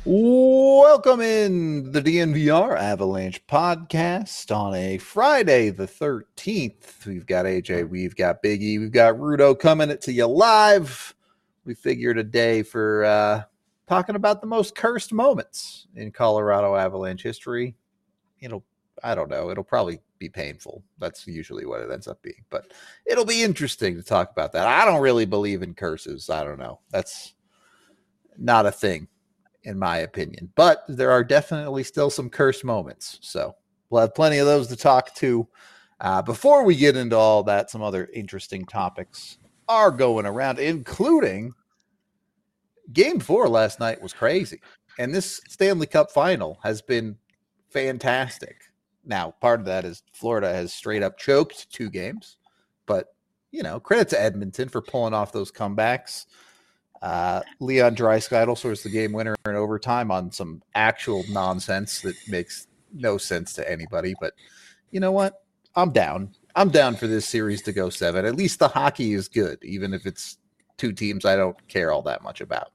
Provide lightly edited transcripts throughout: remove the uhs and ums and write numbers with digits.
Welcome in the DNVR Avalanche podcast on a Friday the 13th. We've got AJ, we've got Biggie, we've got Rudo coming to you live. We figured a day for talking about the most cursed moments in Colorado Avalanche history. I don't know, it'll probably be painful. That's usually what it ends up being, but it'll be interesting to talk about that. I don't really believe in curses. I don't know. That's not a thing in my opinion. But there are definitely still some cursed moments. So we'll have plenty of those to talk to. Before we get into all that, some other interesting topics are going around, including Game 4 last night was crazy. And this Stanley Cup final has been fantastic. Now, part of that is Florida has straight up choked 2 games. But, credit to Edmonton for pulling off those comebacks. Leon Draisaitl scores the game winner in overtime on some actual nonsense that makes no sense to anybody. But you know what? I'm down. I'm down for this series to go 7. At least the hockey is good, even if it's 2 teams I don't care all that much about.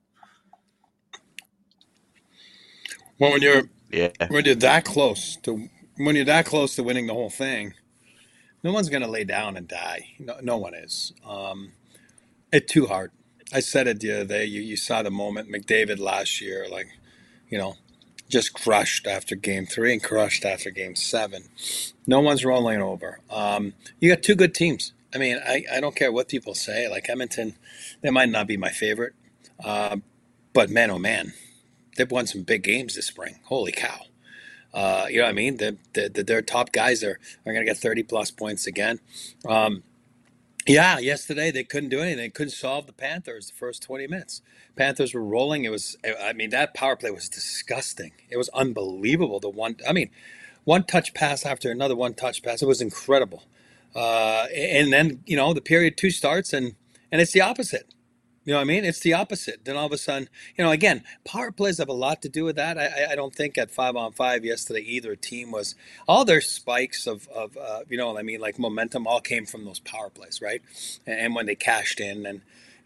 Well, when you're that close to winning the whole thing, no one's going to lay down and die. No one is. It's too hard. I said it the other day. You saw the moment McDavid last year, just crushed after Game 3 and crushed after Game 7. No one's rolling over. You got 2 good teams. I mean, I don't care what people say. Like Edmonton, they might not be my favorite, but man, oh man, they've won some big games this spring. Holy cow! You know what I mean? Their top guys are going to get 30-plus points again. Yeah, yesterday they couldn't do anything. They couldn't solve the Panthers the first 20 minutes. Panthers were rolling. That power play was disgusting. It was unbelievable. One touch pass after another one touch pass. It was incredible. And then, the period 2 starts and it's the opposite. You know what I mean? It's the opposite. Then all of a sudden, again, power plays have a lot to do with that. I don't think at 5-on-5 yesterday either team was all their spikes of like momentum all came from those power plays, right? And when they cashed in and,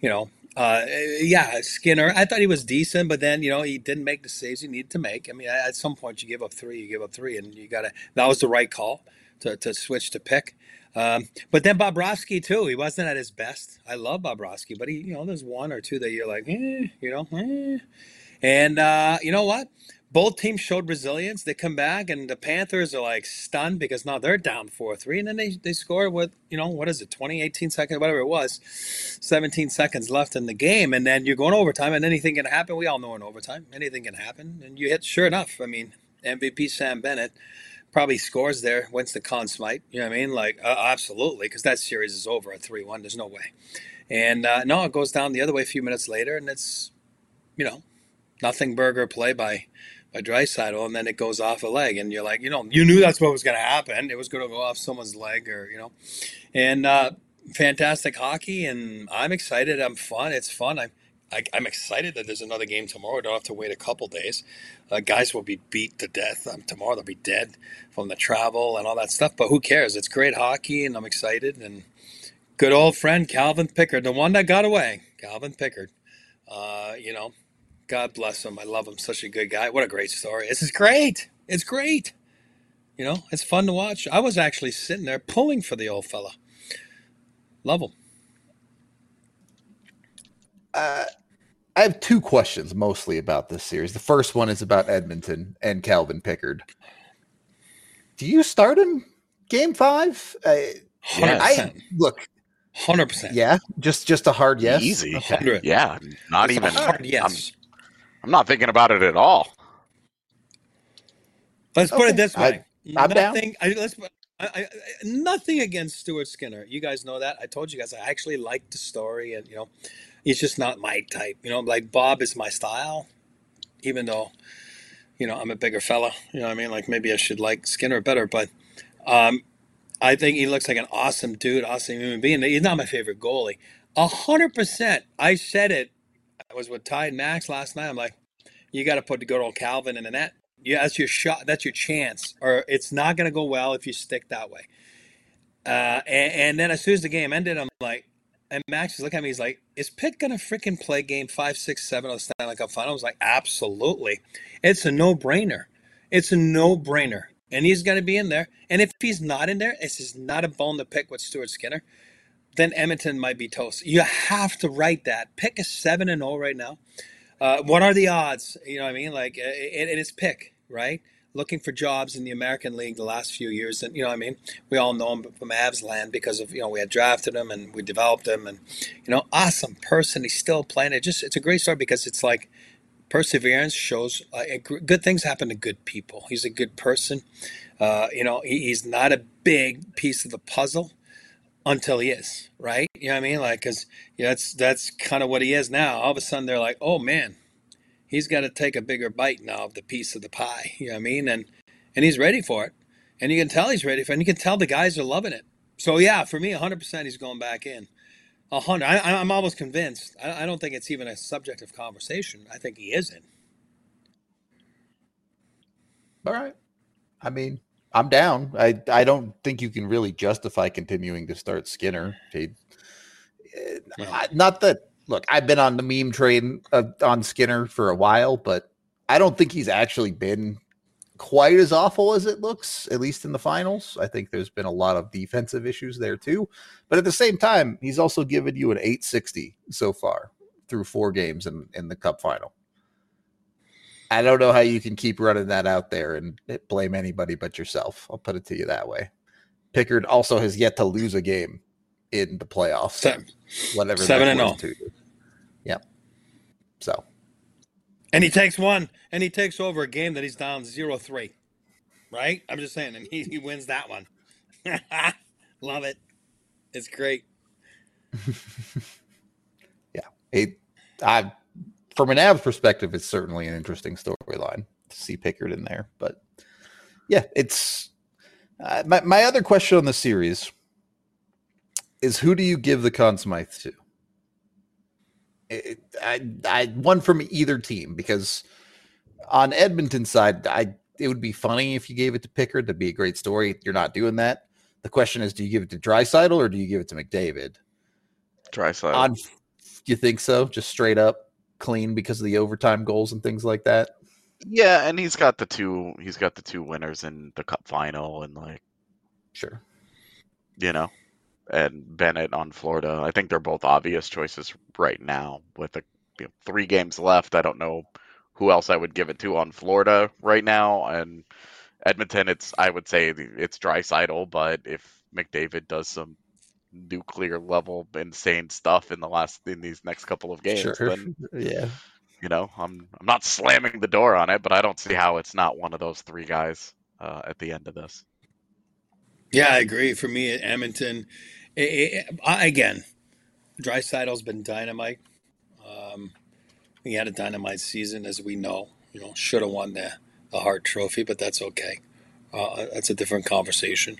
Skinner, I thought he was decent, but then, he didn't make the saves he needed to make. I mean, at some point you give up three, and that was the right call to switch to Pick. But then Bobrovsky too. He wasn't at his best. I love Bobrovsky, but there's one or two that you're like, And you know what? Both teams showed resilience. They come back, and the Panthers are like stunned because now they're down 4-3, and then they score with what is it, 20, 18 seconds, whatever it was, 17 seconds left in the game, and then you're going overtime, and anything can happen. We all know in overtime, anything can happen, and you hit. Sure enough, I mean, MVP Sam Bennett probably scores there, wins the Conn Smythe. You know what I mean? Absolutely, because that series is over at 3-1. There's no way. And no, it goes down the other way a few minutes later, and it's, nothing burger play by Draisaitl, and then it goes off a leg, and you're like, you knew that's what was going to happen. It was going to go off someone's leg, and fantastic hockey, and I'm excited. I'm fun. It's fun. I'm excited that there's another game tomorrow. I don't have to wait a couple days. Guys will be beat to death. Tomorrow they'll be dead from the travel and all that stuff. But who cares? It's great hockey, and I'm excited. And good old friend Calvin Pickard, the one that got away, Calvin Pickard. God bless him. I love him. Such a good guy. What a great story. This is great. It's great. It's fun to watch. I was actually sitting there pulling for the old fella. Love him. I have 2 questions mostly about this series. The first one is about Edmonton and Calvin Pickard. Do you start him Game 5? 100%. Look, 100%. Yeah, just a hard yes. Easy. Okay. Yeah, not It's even. a hard yes. I'm not thinking about it at all. Let's put it this way. I'm down. Nothing against Stuart Skinner. You guys know that. I told you guys I actually like the story, and he's just not my type. Like Bob is my style, even though I'm a bigger fella. You know what I mean? Like maybe I should like Skinner better, but I think he looks like an awesome dude, awesome human being. He's not my favorite goalie. 100%. I said it. I was with Ty and Max last night. I'm like, you got to put the good old Calvin in the net. Yeah, that's your shot. That's your chance. Or it's not going to go well if you stick that way. And then as soon as the game ended, I'm like, And Max is looking at me. He's like, "Is Pitt gonna freaking play Game 5, 6, 7 of the Stanley Cup Final?" I was like, "Absolutely, it's a no-brainer. It's a no-brainer, and he's gonna be in there. And if he's not in there, it's just not a bone to pick with Stuart Skinner. Then Edmonton might be toast. You have to write that. Pick is 7-0 right now. What are the odds? You know what I mean? Like it is Pick, right? Looking for jobs in the American League the last few years, and you know what I mean. We all know him from Avs land because of we had drafted him and we developed him, and awesome person. He's still playing. It's a great story because it's like perseverance shows good things happen to good people. He's a good person. He's not a big piece of the puzzle until he is, right? You know what I mean? Like, because that's kind of what he is now. All of a sudden, they're like, oh man, he's got to take a bigger bite now of the piece of the pie. You know what I mean? And he's ready for it, and you can tell he's ready for it. And you can tell the guys are loving it. So yeah, for me, 100%, he's going back in. 100. I'm almost convinced. I don't think it's even a subject of conversation. I think he is in. All right. I mean, I'm down. I don't think you can really justify continuing to start Skinner. Not that. Look, I've been on the meme train on Skinner for a while, but I don't think he's actually been quite as awful as it looks, at least in the finals. I think there's been a lot of defensive issues there too. But at the same time, he's also given you an 860 so far through 4 games in the Cup final. I don't know how you can keep running that out there and blame anybody but yourself. I'll put it to you that way. Pickard also has yet to lose a game in the playoffs. Whatever 7-0. Yep. So. And he takes one, and he takes over a game that he's down 0-3. Right? I'm just saying, and he wins that one. Love it. It's great. Yeah. From an Avs perspective, it's certainly an interesting storyline to see Pickard in there. But yeah, it's my other question on the series is, who do you give the Conn Smythe to? I one from either team, because on Edmonton's side, it would be funny if you gave it to Pickard. That'd be a great story. You're not doing that. The question is, do you give it to Draisaitl or do you give it to McDavid? Draisaitl. You think so? Just straight up clean because of the overtime goals and things like that? Yeah, and he's got the two winners in the Cup final, and sure. And Bennett on Florida. I think they're both obvious choices right now with 3 games left. I don't know who else I would give it to on Florida right now. And Edmonton, I would say it's Draisaitl, but if McDavid does some nuclear level insane stuff in these next couple of games, then yeah, I'm not slamming the door on it, but I don't see how it's not one of those 3 guys at the end of this. Yeah, I agree. For me, at Edmonton, again, Draisaitl's been dynamite. He had a dynamite season, as we know. Should have won the Hart Trophy, but that's okay. That's a different conversation.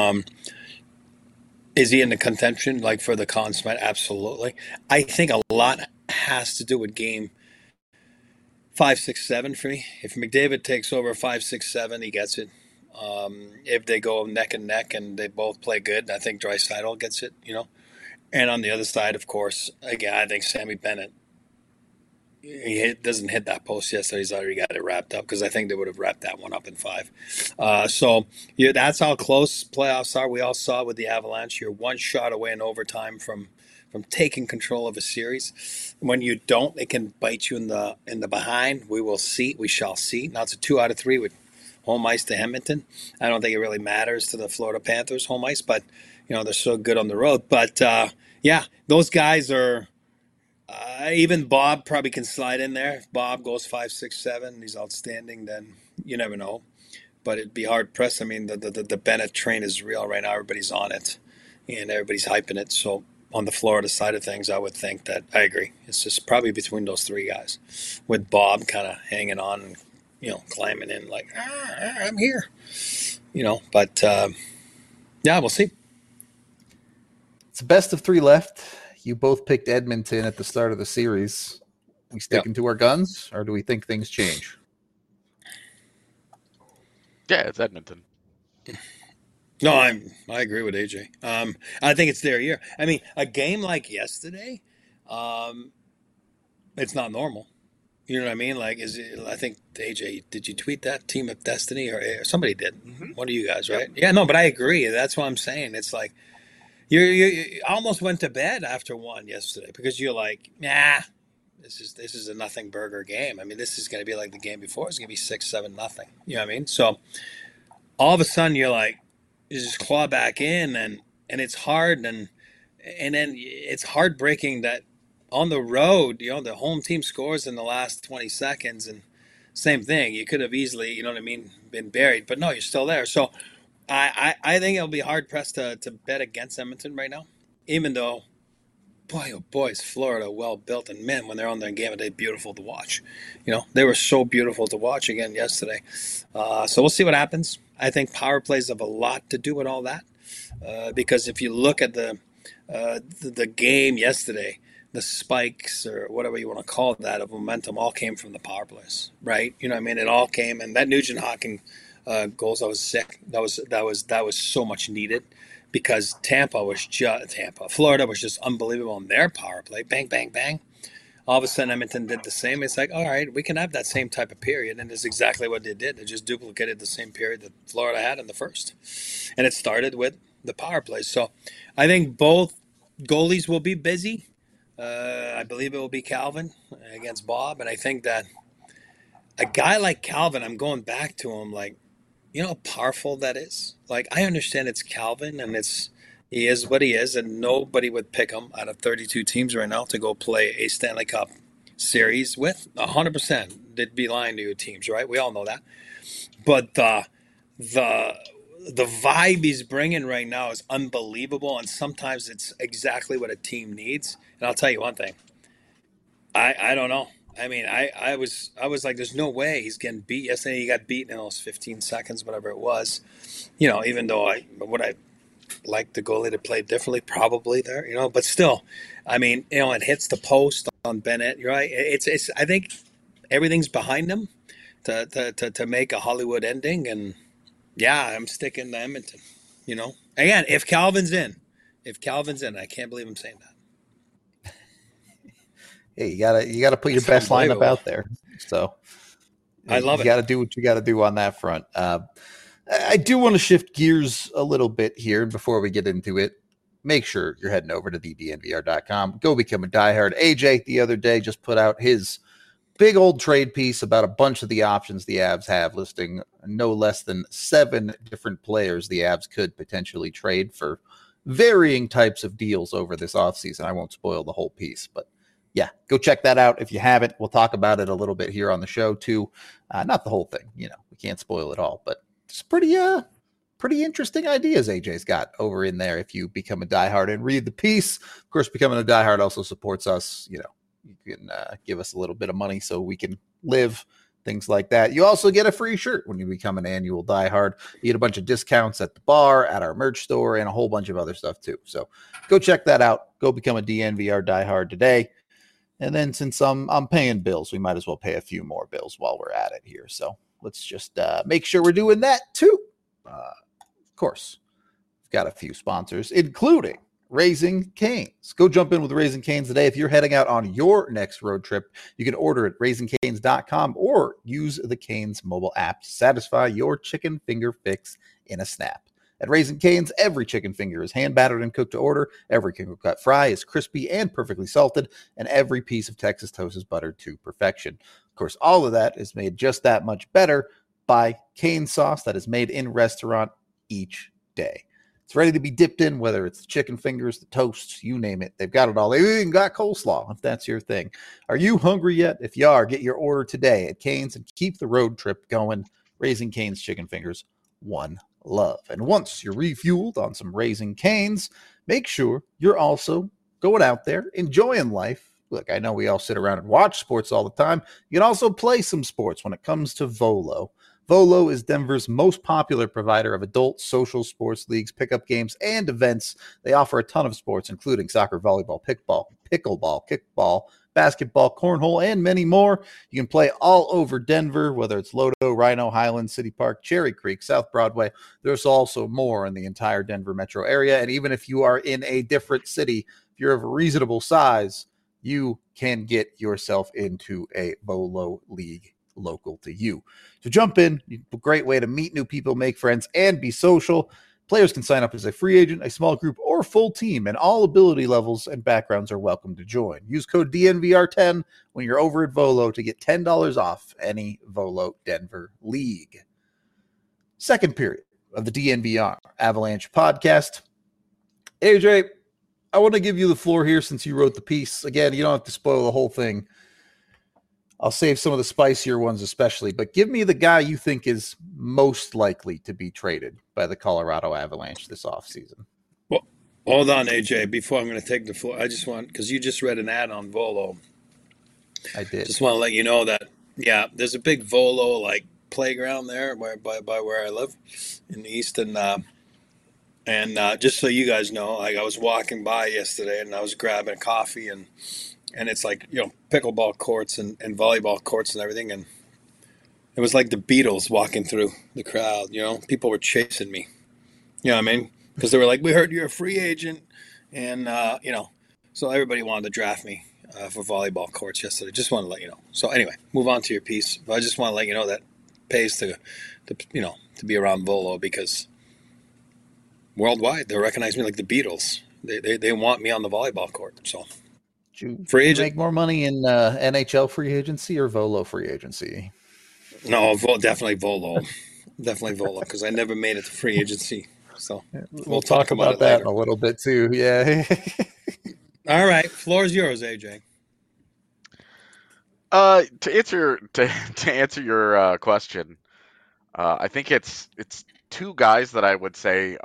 Is he in the contention, for the Conn Smythe? Absolutely. I think a lot has to do with game 5, 6, 7 for me. If McDavid takes over 5, 6, 7, he gets it. If they go neck and neck and they both play good, I think Draisaitl gets it, And on the other side, of course, again, I think Sammy Bennett, he doesn't hit that post yet, so he's already got it wrapped up, because I think they would have wrapped that one up in 5. So that's how close playoffs are. We all saw it with the Avalanche. You're one shot away in overtime from taking control of a series. When you don't, it can bite you in the behind. We shall see. Now it's a 2 out of 3 with home ice to Edmonton. I don't think it really matters to the Florida Panthers home ice, but they're so good on the road. But yeah, those guys are. Even Bob probably can slide in there. If Bob goes 5, 6, 7, he's outstanding, then you never know. But it'd be hard pressed. I mean, the Bennett train is real right now. Everybody's on it, and everybody's hyping it. So on the Florida side of things, I would think that I agree. It's just probably between those 3 guys, with Bob kind of hanging on and climbing in like, I'm here. But yeah, we'll see. It's a best of 3 left. You both picked Edmonton at the start of the series. We sticking to our guns, or do we think things change? Yeah, it's Edmonton. No, I agree with AJ. I think it's their year. I mean, a game like yesterday, it's not normal. You know what I mean? Like, I think AJ, did you tweet that Team of Destiny or somebody did? Mm-hmm. One of you guys, right? Yep. Yeah, no, but I agree. That's what I'm saying. It's like you almost went to bed after one yesterday because you're like, nah, this is a nothing burger game. I mean, this is going to be like the game before. It's going to be 6-7 nothing. You know what I mean? So all of a sudden you're like, you just claw back in, and it's hard, and then it's heartbreaking that on the road, the home team scores in the last 20 seconds, and same thing. You could have easily, you know what I mean, been buried, but no, you're still there. So I think it'll be hard pressed to bet against Edmonton right now, even though, boy, oh boy, is Florida well built, and man, when they're on their game, they're beautiful to watch. They were so beautiful to watch again yesterday. So we'll see what happens. I think power plays have a lot to do with all that, because if you look at the game yesterday, the spikes or whatever you want to call that of momentum all came from the power plays, right? You know what I mean? It all came, and that Nugent Hopkins goals, I was sick. That was so much needed, because Florida was just unbelievable on their power play. Bang, bang, bang. All of a sudden, Edmonton did the same. It's like, all right, we can have that same type of period, and it's exactly what they did. They just duplicated the same period that Florida had in the first, and it started with the power play. So I think both goalies will be busy. I believe it will be Calvin against Bob, and I think that a guy like Calvin, I'm going back to him, like, you know how powerful that is? Like, I understand it's Calvin, and he is what he is, and nobody would pick him out of 32 teams right now to go play a Stanley Cup series with. 100%. They'd be lying to your teams, right? We all know that. But the vibe he's bringing right now is unbelievable, and sometimes it's exactly what a team needs. And I'll tell you one thing. I don't know. I mean, I was like, there's no way he's getting beat. Yesterday he got beat in those 15 seconds, whatever it was. Even though I like the goalie to play differently, probably there, but still, I mean, it hits the post on Bennett, right? It's I think everything's behind him to make a Hollywood ending, and yeah, I'm sticking to Edmonton. Again, if Calvin's in, I can't believe I'm saying that. Hey, you gotta put your best lineup out there. So I love it. You got to do what you got to do on that front. I do want to shift gears a little bit here before we get into it. Make sure you're heading over to thednvr.com. Go become a diehard. AJ the other day just put out his big old trade piece about a bunch of the options the Avs have, listing no less than 7 different players the Avs could potentially trade for varying types of deals over this offseason. I won't spoil the whole piece, but yeah, go check that out if you haven't. We'll talk about it a little bit here on the show too. Not the whole thing, we can't spoil it all, but it's pretty interesting ideas AJ's got over in there if you become a diehard and read the piece. Of course, becoming a diehard also supports us. You can give us a little bit of money so we can live, things like that. You also get a free shirt when you become an annual diehard. You get a bunch of discounts at the bar, at our merch store, and a whole bunch of other stuff too. So go check that out. Go become a DNVR diehard today. And then since I'm paying bills, we might as well pay a few more bills while we're at it here. So let's just make sure we're doing that too. Of course, we've got a few sponsors, including Raising Cane's. Go jump in with Raising Cane's today. If you're heading out on your next road trip, you can order at raisingcanes.com or use the Cane's mobile app to satisfy your chicken finger fix in a snap. At Raising Cane's, every chicken finger is hand-battered and cooked to order. Every crinkle-cut fry is crispy and perfectly salted, and every piece of Texas toast is buttered to perfection. Of course, all of that is made just that much better by Cane sauce that is made in restaurant each day. It's ready to be dipped in, whether it's the chicken fingers, the toasts, you name it. They've got it all. They even got coleslaw, if that's your thing. Are you hungry yet? If you are, get your order today at Cane's and keep the road trip going. Raising Cane's chicken fingers, one love. And once you're refueled on some Raising Cane's, make sure you're also going out there enjoying life. Look, I know we all sit around and watch sports all the time. You can also play some sports when it comes to Volo. Volo is Denver's most popular provider of adult social sports leagues, pickup games, and events. They offer a ton of sports, including soccer, volleyball, pickleball, kickball, basketball, cornhole, and many more. You can play all over Denver, whether it's Lodo, Rhino, Highland, City Park, Cherry Creek, South Broadway. There's also more in the entire Denver metro area. And even if you are in a different city, if you're of a reasonable size, you can get yourself into a Volo league local to you. So jump in. A great way to meet new people, make friends, and be social. Players can sign up as a free agent, a small group, or full team, and all ability levels and backgrounds are welcome to join. Use code DNVR10 when you're over at Volo to get $10 off any Volo Denver league. Second period of the DNVR Avalanche podcast. AJ, I want to give you the floor here since you wrote the piece. Again, you don't have to spoil the whole thing. I'll save some of the spicier ones especially, but give me the guy you think is most likely to be traded by the Colorado Avalanche this offseason. Well, hold on, AJ. Before I'm going to take the floor, I just want, because you just read an ad on Volo. I did. Just want to let you know that, yeah, there's a big Volo like playground there by where I live in the east, and just so you guys know, like I was walking by yesterday and I was grabbing a coffee and it's like, you know, pickleball courts and volleyball courts and everything, and it was like the Beatles walking through the crowd. You know, people were chasing me. You know what I mean? Because they were like, "We heard you're a free agent," and you know, so everybody wanted to draft me for volleyball courts yesterday. Just want to let you know. So anyway, move on to your piece. But I just want to let you know that pays to you know, to be around Volo, because worldwide they recognize me like the Beatles. They want me on the volleyball court. So free agent, make more money in NHL free agency or Volo free agency? No, definitely Volo. Definitely Volo, because I never made it to free agency. So we'll talk about that in a little bit too. Yeah. All right, floor's yours, AJ. To answer your question, I think it's two guys that I would say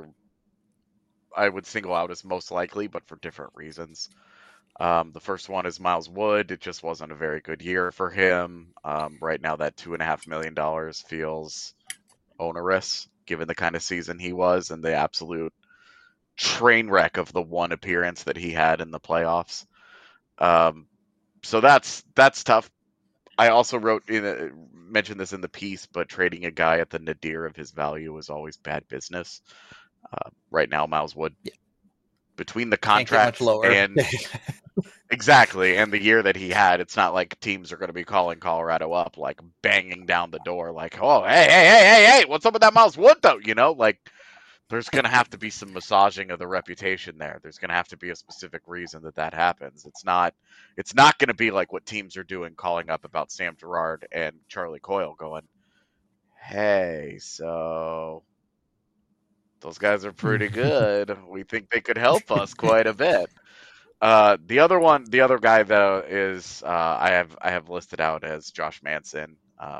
I would single out as most likely, but for different reasons. The first one is Miles Wood. It just wasn't a very good year for him. Right now, that $2.5 million feels onerous, given the kind of season he was and the absolute train wreck of the one appearance that he had in the playoffs. So that's tough. I also mentioned this in the piece, but trading a guy at the nadir of his value is always bad business. Right now, Miles Wood, between the contract and exactly, and the year that he had, it's not like teams are going to be calling Colorado up, like banging down the door, like, "Oh, hey, what's up with that Miles Wood, though?" You know, like there's going to have to be some massaging of the reputation there. There's going to have to be a specific reason that happens. It's not going to be like what teams are doing, calling up about Sam Girard and Charlie Coyle, going, "Hey, so those guys are pretty good. We think they could help us quite a bit." The other guy though is I have listed out as Josh Manson.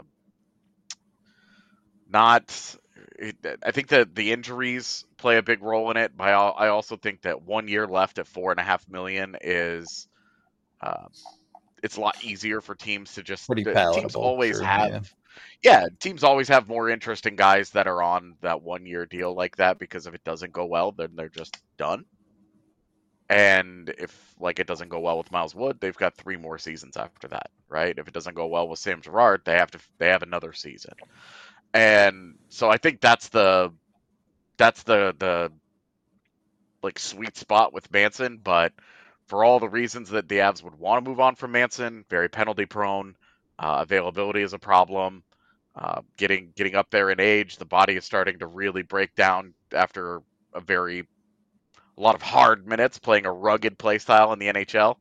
I think that the injuries play a big role in it, but I also think that 1 year left at $4.5 million is it's a lot easier for teams to just pretty palatable. Teams always teams always have more interesting guys that are on that 1 year deal like that, because if it doesn't go well, then they're just done. And if like it doesn't go well with Miles Wood, they've got 3 more seasons after that, right? If it doesn't go well with Sam Girard, they have another season. And so I think that's the like sweet spot with Manson. But for all the reasons that the Avs would want to move on from Manson, very penalty prone, availability is a problem, getting up there in age, the body is starting to really break down after a lot of hard minutes playing a rugged play style in the NHL.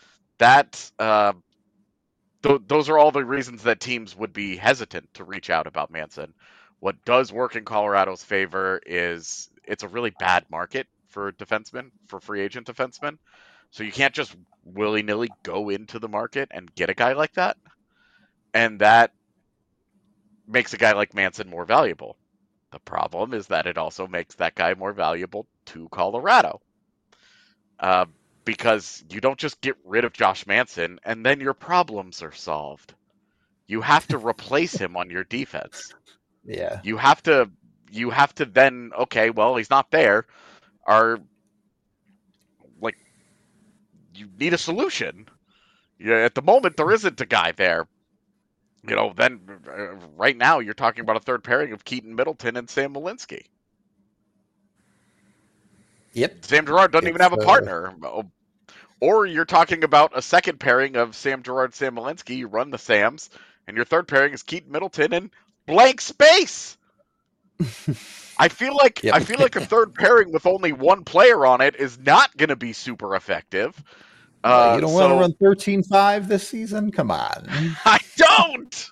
Those are all the reasons that teams would be hesitant to reach out about Manson. What does work in Colorado's favor is it's a really bad market for defensemen, for free agent defensemen. So you can't just willy-nilly go into the market and get a guy like that. And that makes a guy like Manson more valuable. The problem is that it also makes that guy more valuable to Colorado. Because you don't just get rid of Josh Manson and then your problems are solved. You have to replace him on your defense. Yeah. You have to then, okay, well, he's not there. You need a solution. Yeah, at the moment there isn't a guy there. Then right now you're talking about a third pairing of Keaton Middleton and Sam Malinsky. Yep. Sam Girard doesn't even have a partner. Or you're talking about a second pairing of Sam Girard, Sam Malinsky. You run the Sams, and your third pairing is Keaton Middleton and blank space. I feel like a third pairing with only one player on it is not going to be super effective. You don't want to run 13-5 this season? Come on. I don't.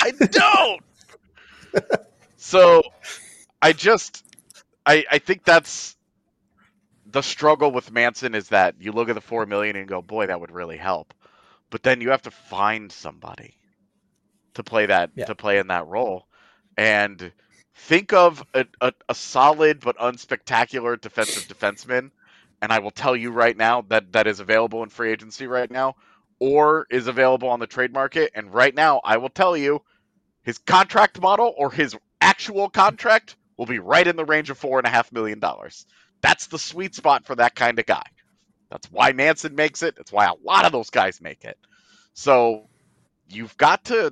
So I think that's the struggle with Manson, is that you look at the $4 million and go, boy, that would really help. But then you have to find somebody to play to play in that role. And think of a solid but unspectacular defensive defenseman, and I will tell you right now that is available in free agency right now, or is available on the trade market. And right now, I will tell you, his contract model or his actual contract will be right in the range of $4.5 million. That's the sweet spot for that kind of guy. That's why Manson makes it. That's why a lot of those guys make it. So you've got to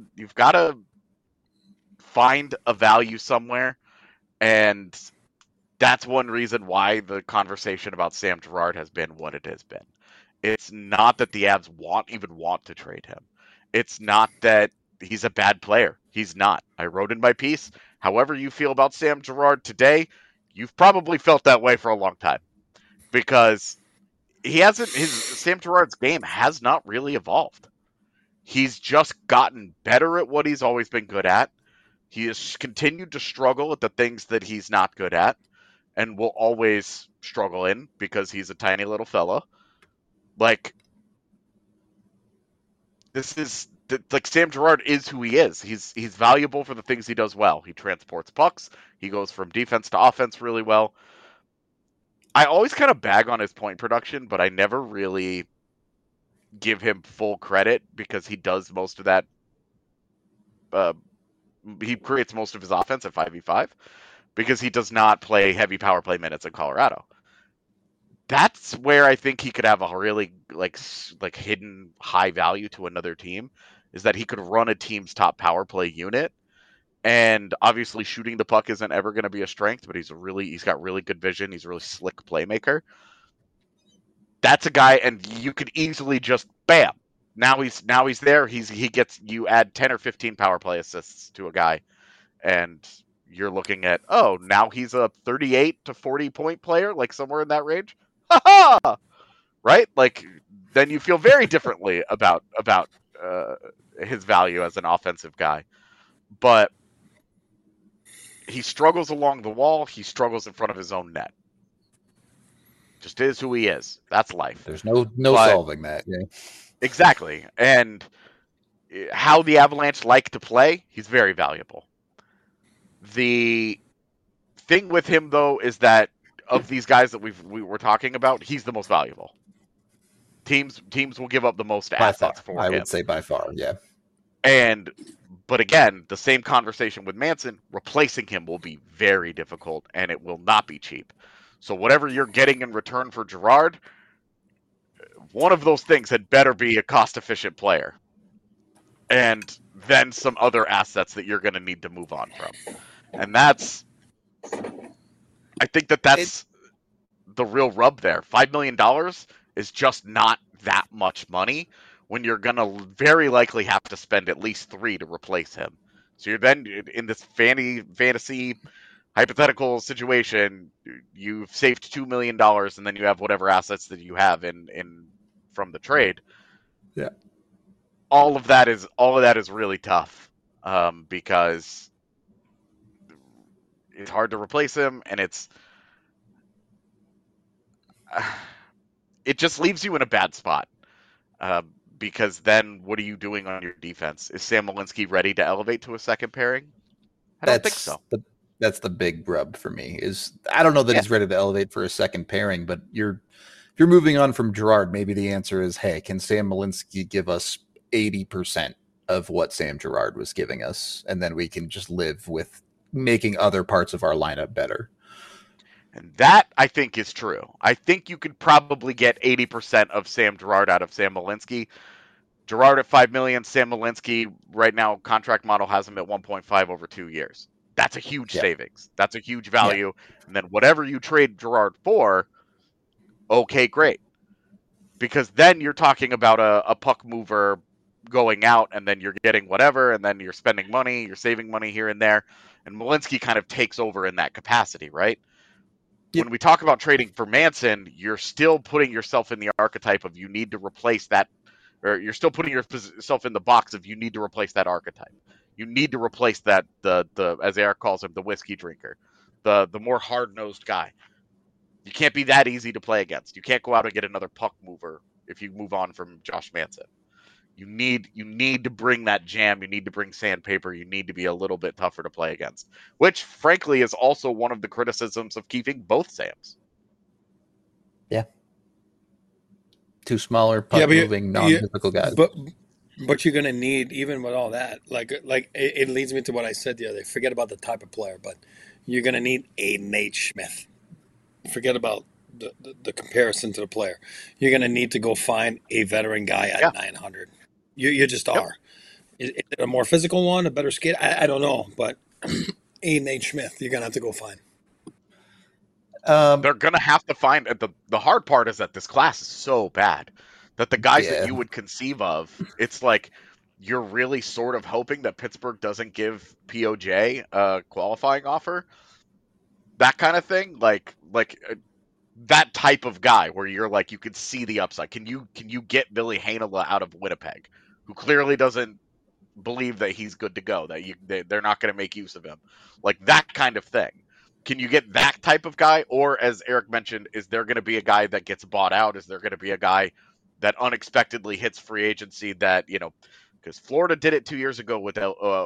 find a value somewhere, and that's one reason why the conversation about Sam Girard has been what it has been. It's not that the Avs even want to trade him. It's not that he's a bad player. He's not. I wrote in my piece, however you feel about Sam Girard today, you've probably felt that way for a long time, because Sam Girard's game has not really evolved. He's just gotten better at what he's always been good at. He has continued to struggle at the things that he's not good at, and will always struggle in, because he's a tiny little fella. Like, Sam Girard is who he is. He's valuable for the things he does well. He transports pucks. He goes from defense to offense really well. I always kind of bag on his point production, but I never really give him full credit, because he does most of that. He creates most of his offense at 5v5, because he does not play heavy power play minutes in Colorado. That's where I think he could have a really like hidden high value to another team, is that he could run a team's top power play unit. And obviously shooting the puck isn't ever going to be a strength, but he's got really good vision. He's a really slick playmaker. That's a guy, and you could easily just bam. Now he's there. You add 10 or 15 power play assists to a guy, and you're looking at, now he's a 38 to 40 point player, like somewhere in that range. Ha-ha! Right? Like, then you feel very differently about his value as an offensive guy. But he struggles along the wall. He struggles in front of his own net. Just is who he is. That's life. There's no solving that. Yeah. Exactly. And how the Avalanche like to play, he's very valuable. The thing with him, though, is that of these guys that we were talking about, he's the most valuable. Teams will give up the most assets for him. I would say by far, yeah. But again, the same conversation with Manson, replacing him will be very difficult, and it will not be cheap. So whatever you're getting in return for Girard, one of those things had better be a cost-efficient player. And then some other assets that you're going to need to move on from. And I think that's the real rub there. $5 million is just not that much money when you're going to very likely have to spend at least $3 million to replace him. So you're then in this fantasy hypothetical situation, you've saved $2 million, and then you have whatever assets that you have in from the trade. Yeah. All of that is really tough, because it's hard to replace him, and it just leaves you in a bad spot, because then what are you doing on your defense? Is Sam Malinsky ready to elevate to a second pairing? I don't think so. That's the big rub for me. I don't know that he's ready to elevate for a second pairing, but if you're moving on from Girard, maybe the answer is, hey, can Sam Malinsky give us 80% of what Sam Girard was giving us, and then we can just live with making other parts of our lineup better. And that, I think, is true. I think you could probably get 80% of Sam Girard out of Sam Malinsky. Girard at $5 million. Sam Malinsky right now contract model has him at 1.5 over 2 years. That's a huge savings. That's a huge value. And then whatever you trade Girard for, okay, great. Because then you're talking about a puck mover going out, and then you're getting whatever, and then you're spending money, you're saving money here and there, and Malinsky kind of takes over in that capacity, right? When we talk about trading for Manson, you're still putting yourself in the archetype of you need to replace that, or you're still putting yourself in the box of you need to replace that archetype. You need to replace that, the as Eric calls him, the whiskey drinker, the more hard-nosed guy. You can't be that easy to play against. You can't go out and get another puck mover if you move on from Josh Manson. You need to bring that jam. You need to bring sandpaper. You need to be a little bit tougher to play against, which frankly is also one of the criticisms of keeping both Sams. Yeah. Two smaller puck moving non-typical guys. But you're going to need, even with all that, like it leads me to what I said the other day. Forget about the type of player, but you're going to need a Nate Schmidt. Forget about the comparison to the player. You're going to need to go find a veteran guy at 900. You just are. Is it a more physical one, a better skate? I don't know, but a Nate Schmidt, you're going to have to go find. They're going to have to find. The hard part is that this class is so bad that the guys that you would conceive of, it's like you're really sort of hoping that Pittsburgh doesn't give POJ a qualifying offer. That kind of thing, like that type of guy where you're like, you could see the upside. Can you get Billy Heinola out of Winnipeg, who clearly doesn't believe that he's good to go, that they're not going to make use of him, like that kind of thing? Can you get that type of guy? Or as Eric mentioned, is there going to be a guy that gets bought out? Is there going to be a guy that unexpectedly hits free agency that, because Florida did it 2 years ago with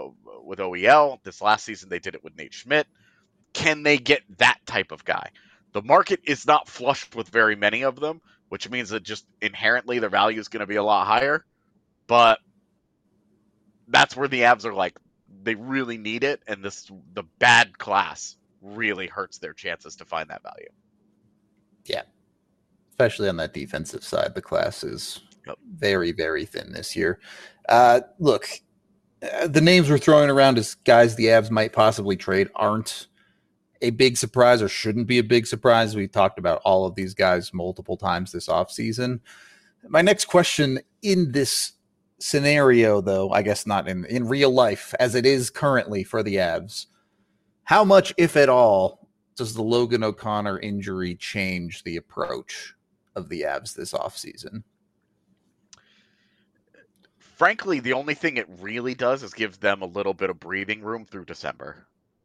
OEL. This last season they did it with Nate Schmidt. Can they get that type of guy? The market is not flushed with very many of them, which means that just inherently their value is going to be a lot higher. But that's where the Avs are like, they really need it, and the bad class really hurts their chances to find that value. Yeah. Especially on that defensive side, the class is very, very thin this year. Look, the names we're throwing around as guys the Avs might possibly trade aren't a big surprise or shouldn't be a big surprise. We talked about all of these guys multiple times this offseason. My next question in this scenario, though, I guess not in real life, as it is currently for the Avs, how much, if at all, does the Logan O'Connor injury change the approach of the Avs this offseason? Frankly, the only thing it really does is give them a little bit of breathing room through December.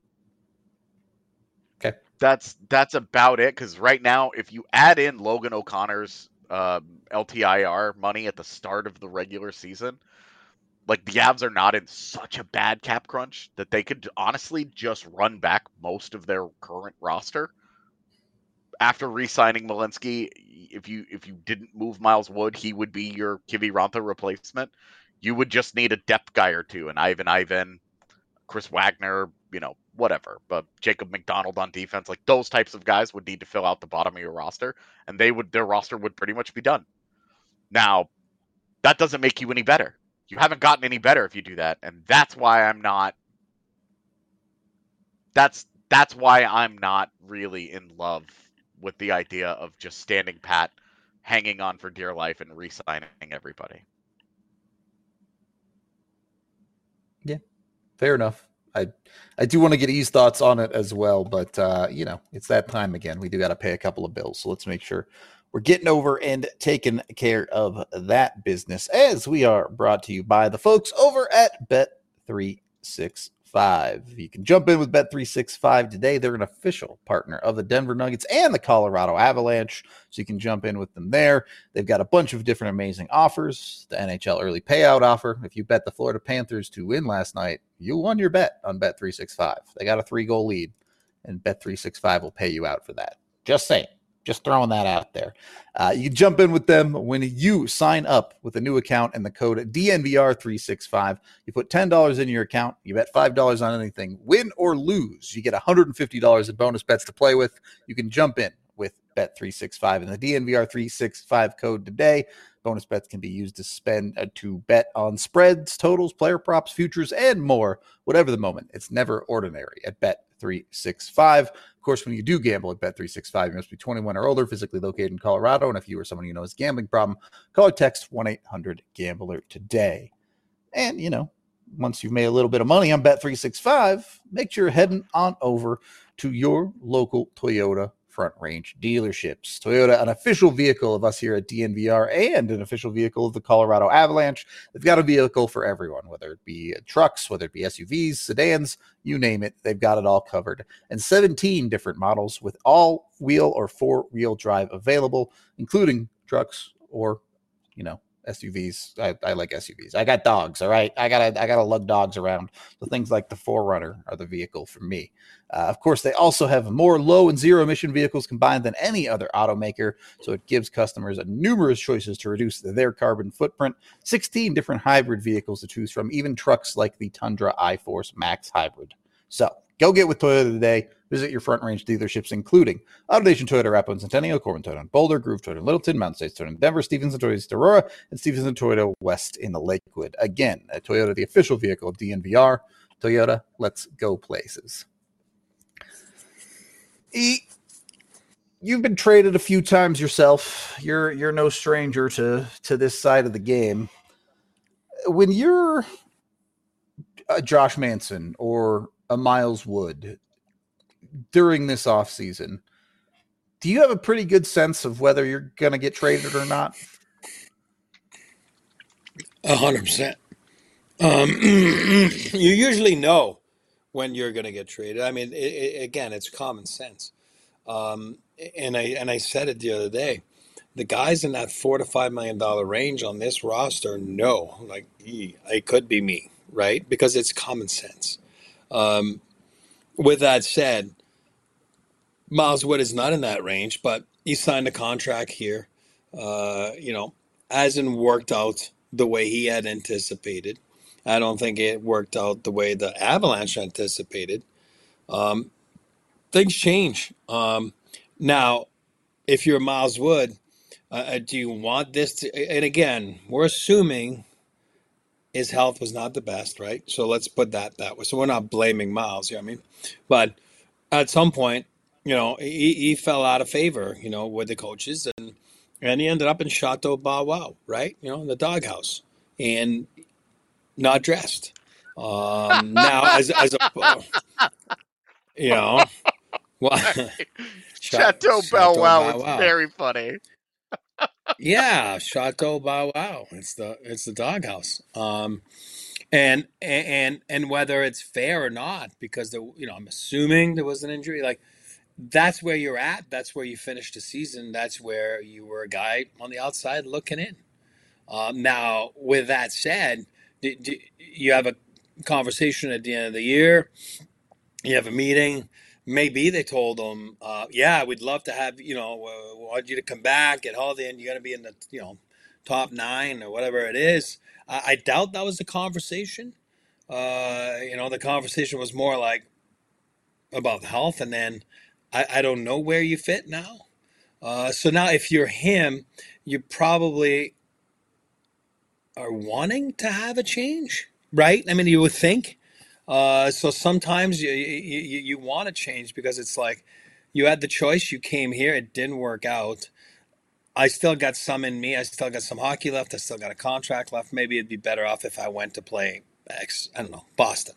Okay. That's about it, because right now, if you add in Logan O'Connor's LTIR money at the start of the regular season, like the Avs are not in such a bad cap crunch that they could honestly just run back most of their current roster. After re-signing Malinsky, if you didn't move Miles Wood, he would be your Kiviranta replacement. You would just need a depth guy or two, and Ivan, Chris Wagner, whatever. But Jacob McDonald on defense, like those types of guys would need to fill out the bottom of your roster, and their roster would pretty much be done. Now, that doesn't make you any better. You haven't gotten any better if you do that, and that's why I'm not. That's why I'm not really in love with the idea of just standing pat, hanging on for dear life, and re-signing everybody. Yeah, fair enough. I do want to get E's thoughts on it as well, but it's that time again. We do got to pay a couple of bills, so let's make sure we're getting over and taking care of that business, as we are brought to you by the folks over at Bet365. You can jump in with Bet365 today. They're an official partner of the Denver Nuggets and the Colorado Avalanche, so you can jump in with them there. They've got a bunch of different amazing offers. The NHL early payout offer. If you bet the Florida Panthers to win last night, you won your bet on Bet365. They got a 3-goal lead, and Bet365 will pay you out for that. Just saying. Just throwing that out there. You can jump in with them when you sign up with a new account and the code DNVR365. You put $10 in your account. You bet $5 on anything. Win or lose, you get $150 in bonus bets to play with. You can jump in with Bet365 and the DNVR365 code today. Bonus bets can be used to bet on spreads, totals, player props, futures, and more, whatever the moment. It's never ordinary at Bet365. Of course, when you do gamble at Bet365, you must be 21 or older, physically located in Colorado, and if you or someone you know has a gambling problem, call or text 1-800-GAMBLER today. And, once you've made a little bit of money on Bet365, make sure you're heading on over to your local Toyota Front Range dealerships. Toyota, an official vehicle of us here at DNVR and an official vehicle of the Colorado Avalanche. They've got a vehicle for everyone, whether it be trucks, whether it be SUVs, sedans, you name it. They've got it all covered. And 17 different models with all-wheel or four-wheel drive available, including trucks or, SUVs. I like SUVs. I got dogs. All right. I gotta lug dogs around. So things like the 4Runner are the vehicle for me. Of course, they also have more low and zero emission vehicles combined than any other automaker. So it gives customers numerous choices to reduce their carbon footprint. 16 different hybrid vehicles to choose from, even trucks like the Tundra iForce Max Hybrid. So go get with Toyota today. Visit your Front Range dealerships, including AutoNation Toyota, Arapahoe and Centennial, Corbin Toyota, Boulder, Groove Toyota, Littleton, Mountain States Toyota, Denver, Stevenson Toyota, East Aurora, and Stevenson Toyota West in the Lakewood. Again, Toyota, the official vehicle of DNVR. Toyota, let's go places. You've been traded a few times yourself. You're no stranger to this side of the game. When you're a Josh Manson or a Miles Wood during this offseason, do you have a pretty good sense of whether you're going to get traded or not? 100%. You usually know when you're going to get traded. I mean, again, it's common sense. And I said it the other day. The guys in that $4 to $5 million range on this roster know, like, it could be me, right? Because it's common sense. With that said, Miles Wood is not in that range, but he signed a contract here. Hasn't worked out the way he had anticipated. I don't think it worked out the way the Avalanche anticipated. Things change. Now, if you're Miles Wood, do you want this to, and again, we're assuming his health was not the best, right? So let's put that way. So we're not blaming Miles, you know what I mean? But at some point, he fell out of favor, with the coaches, and he ended up in Chateau Bow Wow, right? In the doghouse, and not dressed. Now, as a, well, Chateau Bow Wow is very funny. Yeah, Chateau Bow Wow. It's the doghouse. And whether it's fair or not, because I'm assuming there was an injury. Like, that's where you're at. That's where you finished the season. That's where you were a guy on the outside looking in. Now, with that said, you have a conversation at the end of the year. You have a meeting. Maybe they told him, we'd love to have, want you to come back, get healthy, and you're going to be in the, top 9 or whatever it is. I doubt that was the conversation. The conversation was more like about health, and then I don't know where you fit now. So now if you're him, you probably are wanting to have a change, right? I mean, you would think. So sometimes you want to change because it's like you had the choice. You came here. It didn't work out. I still got some in me. I still got some hockey left. I still got a contract left. Maybe it'd be better off if I went to play Boston.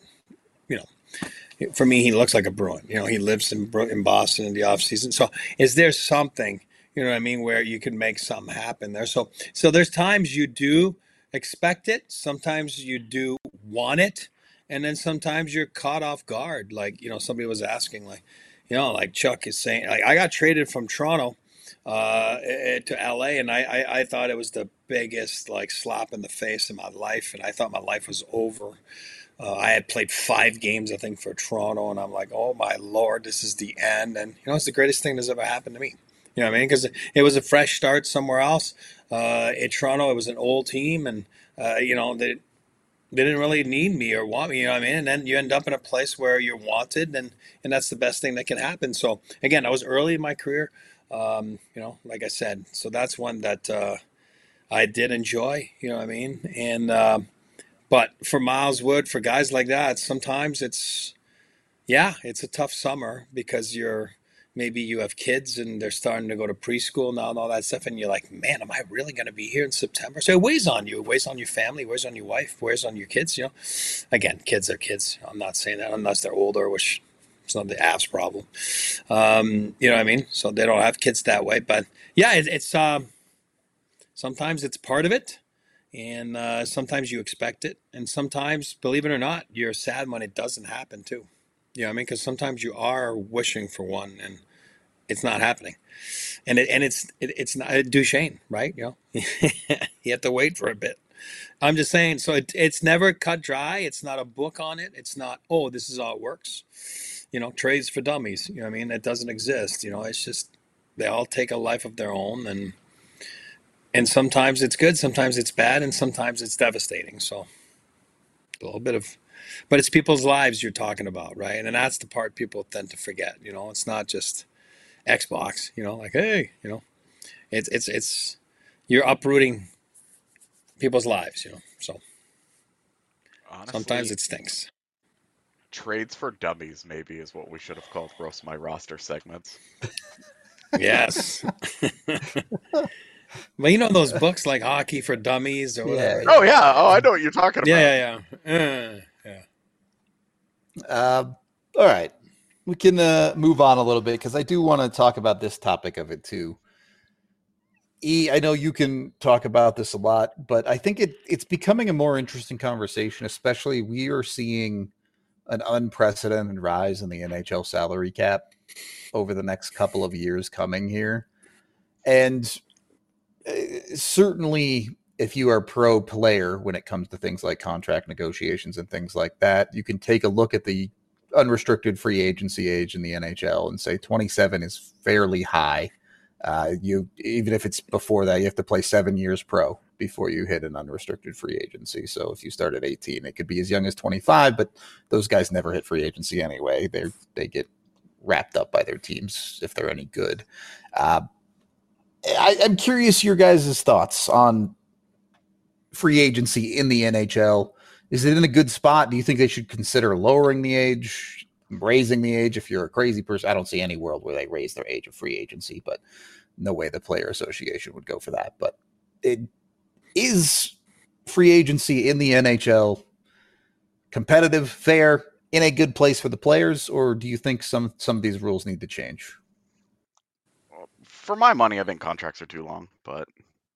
For me, he looks like a Bruin. He lives in Boston in the off season. So is there something, where you can make something happen there? So there's times you do expect it. Sometimes you do want it. And then sometimes you're caught off guard. Like, somebody was asking, like Chuck is saying, like, I got traded from Toronto to LA, and I thought it was the biggest, slap in the face in my life. And I thought my life was over. I had played 5 games, I think, for Toronto, and I'm like, oh my Lord, this is the end. And, it's the greatest thing that's ever happened to me. You know what I mean? Because it was a fresh start somewhere else. In Toronto, it was an old team, and, they didn't really need me or want me, you know what I mean? And then you end up in a place where you're wanted, and that's the best thing that can happen. So, again, I was early in my career, like I said. So that's one that I did enjoy, you know what I mean? And, but for Miles Wood, for guys like that, sometimes it's a tough summer because maybe you have kids and they're starting to go to preschool now and all that stuff. And you're like, man, am I really going to be here in September? So it weighs on you, it weighs on your family, it weighs on your wife, it weighs on your kids, Again, kids are kids. I'm not saying that unless they're older, which it's not the Avs problem. You know what I mean? So they don't have kids that way, but yeah, it's sometimes it's part of it. And sometimes you expect it. And sometimes, believe it or not, you're sad when it doesn't happen too. You know what I mean? Because sometimes you are wishing for one and it's not happening. And it's not Duchesne, right? You have to wait for a bit. I'm just saying, so it's never cut dry. It's not a book on it. It's not, oh, this is how it works. Trades for dummies. You know what I mean? It doesn't exist. It's just they all take a life of their own, and sometimes it's good, sometimes it's bad, and sometimes it's devastating. So a little bit of, but it's people's lives you're talking about, right? And that's the part people tend to forget. It's not just Xbox. Like, hey, it's you're uprooting people's lives. So honestly, sometimes it stinks. Trades for dummies maybe is what we should have called Roast My Roster segments. Yes. Well, those books like Hockey for Dummies or whatever. Yeah. Oh, yeah. Oh, I know what you're talking about. Yeah. All right. We can move on a little bit because I do want to talk about this topic of it too. I know you can talk about this a lot, but I think it's becoming a more interesting conversation, especially we are seeing an unprecedented rise in the NHL salary cap over the next couple of years coming here. And certainly if you are pro player when it comes to things like contract negotiations and things like that, you can take a look at the unrestricted free agency age in the NHL and say 27 is fairly high. Even if it's before that, you have to play 7 years pro before you hit an unrestricted free agency. So if you start at 18, it could be as young as 25, but those guys never hit free agency anyway. They get wrapped up by their teams if they're any good. I'm curious your guys' thoughts on free agency in the NHL. Is it in a good spot? Do you think they should consider lowering the age, raising the age if you're a crazy person? I don't see any world where they raise their age of free agency, but no way the Player Association would go for that. But is free agency in the NHL competitive, fair, in a good place for the players, or do you think some of these rules need to change? For my money, I think contracts are too long, but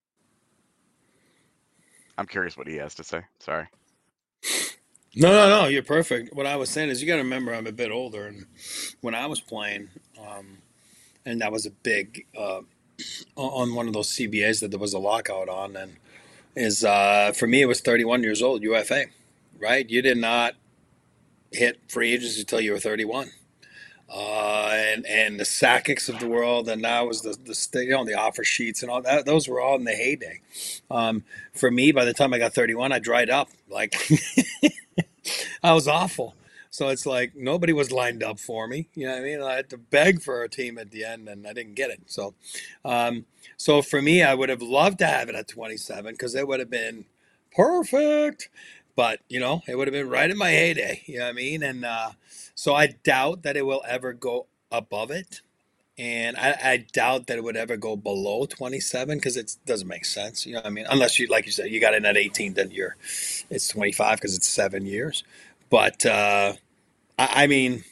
I'm curious what he has to say. Sorry. No, you're perfect. What I was saying is you got to remember I'm a bit older, and when I was playing, and that was a big on one of those CBAs that there was a lockout on, and for me it was 31 years old UFA, right? You did not hit free agency until you were 31. And the Sakic's of the world, and that was the offer sheets and all that. Those were all in the heyday. For me, by the time I got 31, I dried up. Like I was awful. So it's like nobody was lined up for me. You know what I mean? I had to beg for a team at the end, and I didn't get it. So, so for me, I would have loved to have it at 27 because it would have been perfect. But, it would have been right in my heyday. You know what I mean? And so I doubt that it will ever go above it. And I doubt that it would ever go below 27 because it doesn't make sense. You know what I mean? Unless you, like you said, you got in at 18, then it's 25 because it's 7 years. But I mean,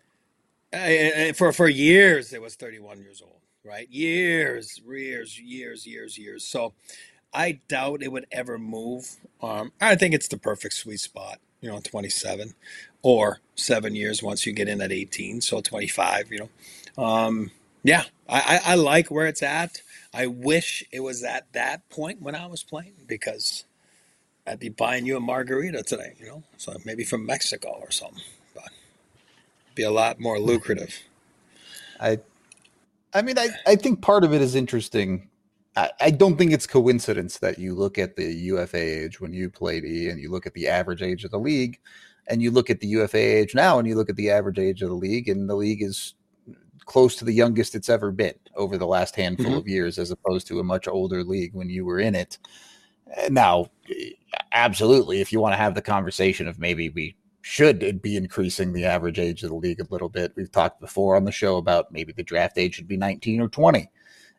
for years it was 31 years old, right? Years. So I doubt it would ever move. I think it's the perfect sweet spot, 27 or 7 years once you get in at 18. So 25, yeah, I like where it's at. I wish it was at that point when I was playing because I'd be buying you a margarita today, so maybe from Mexico or something, but it'd be a lot more lucrative. I think part of it is interesting. I don't think it's coincidence that you look at the UFA age when you played and you look at the average age of the league, and you look at the UFA age now and you look at the average age of the league, and the league is close to the youngest it's ever been over the last handful of years, as opposed to a much older league when you were in it. Now, absolutely, if you want to have the conversation of maybe we should be increasing the average age of the league a little bit. We've talked before on the show about maybe the draft age should be 19 or 20.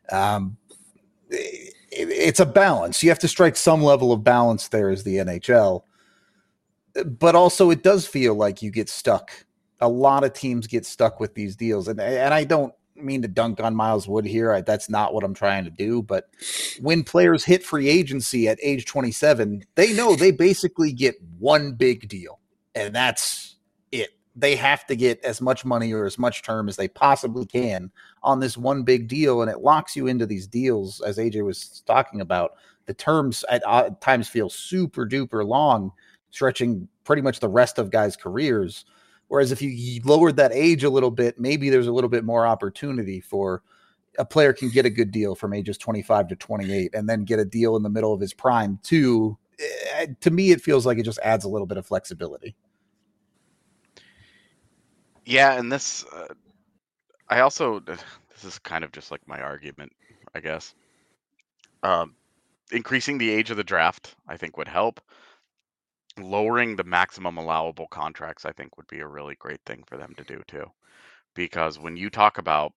It's a balance. You have to strike some level of balance there as the NHL. But also it does feel like you get stuck. A lot of teams get stuck with these deals. And I don't mean to dunk on Miles Wood here. That's not what I'm trying to do. But when players hit free agency at age 27, they know they basically get one big deal. And that's it. They have to get as much money or as much term as they possibly can on this one big deal. And it locks you into these deals, as AJ was talking about. The terms at times feel super duper long, stretching pretty much the rest of guys' careers. Whereas if you lowered that age a little bit, maybe there's a little bit more opportunity for a player can get a good deal from ages 25 to 28 and then get a deal in the middle of his prime too. To me, it feels like it just adds a little bit of flexibility. Yeah, and this, this is kind of just like my argument, I guess. Increasing the age of the draft, I think, would help. Lowering the maximum allowable contracts, I think, would be a really great thing for them to do too. Because when you talk about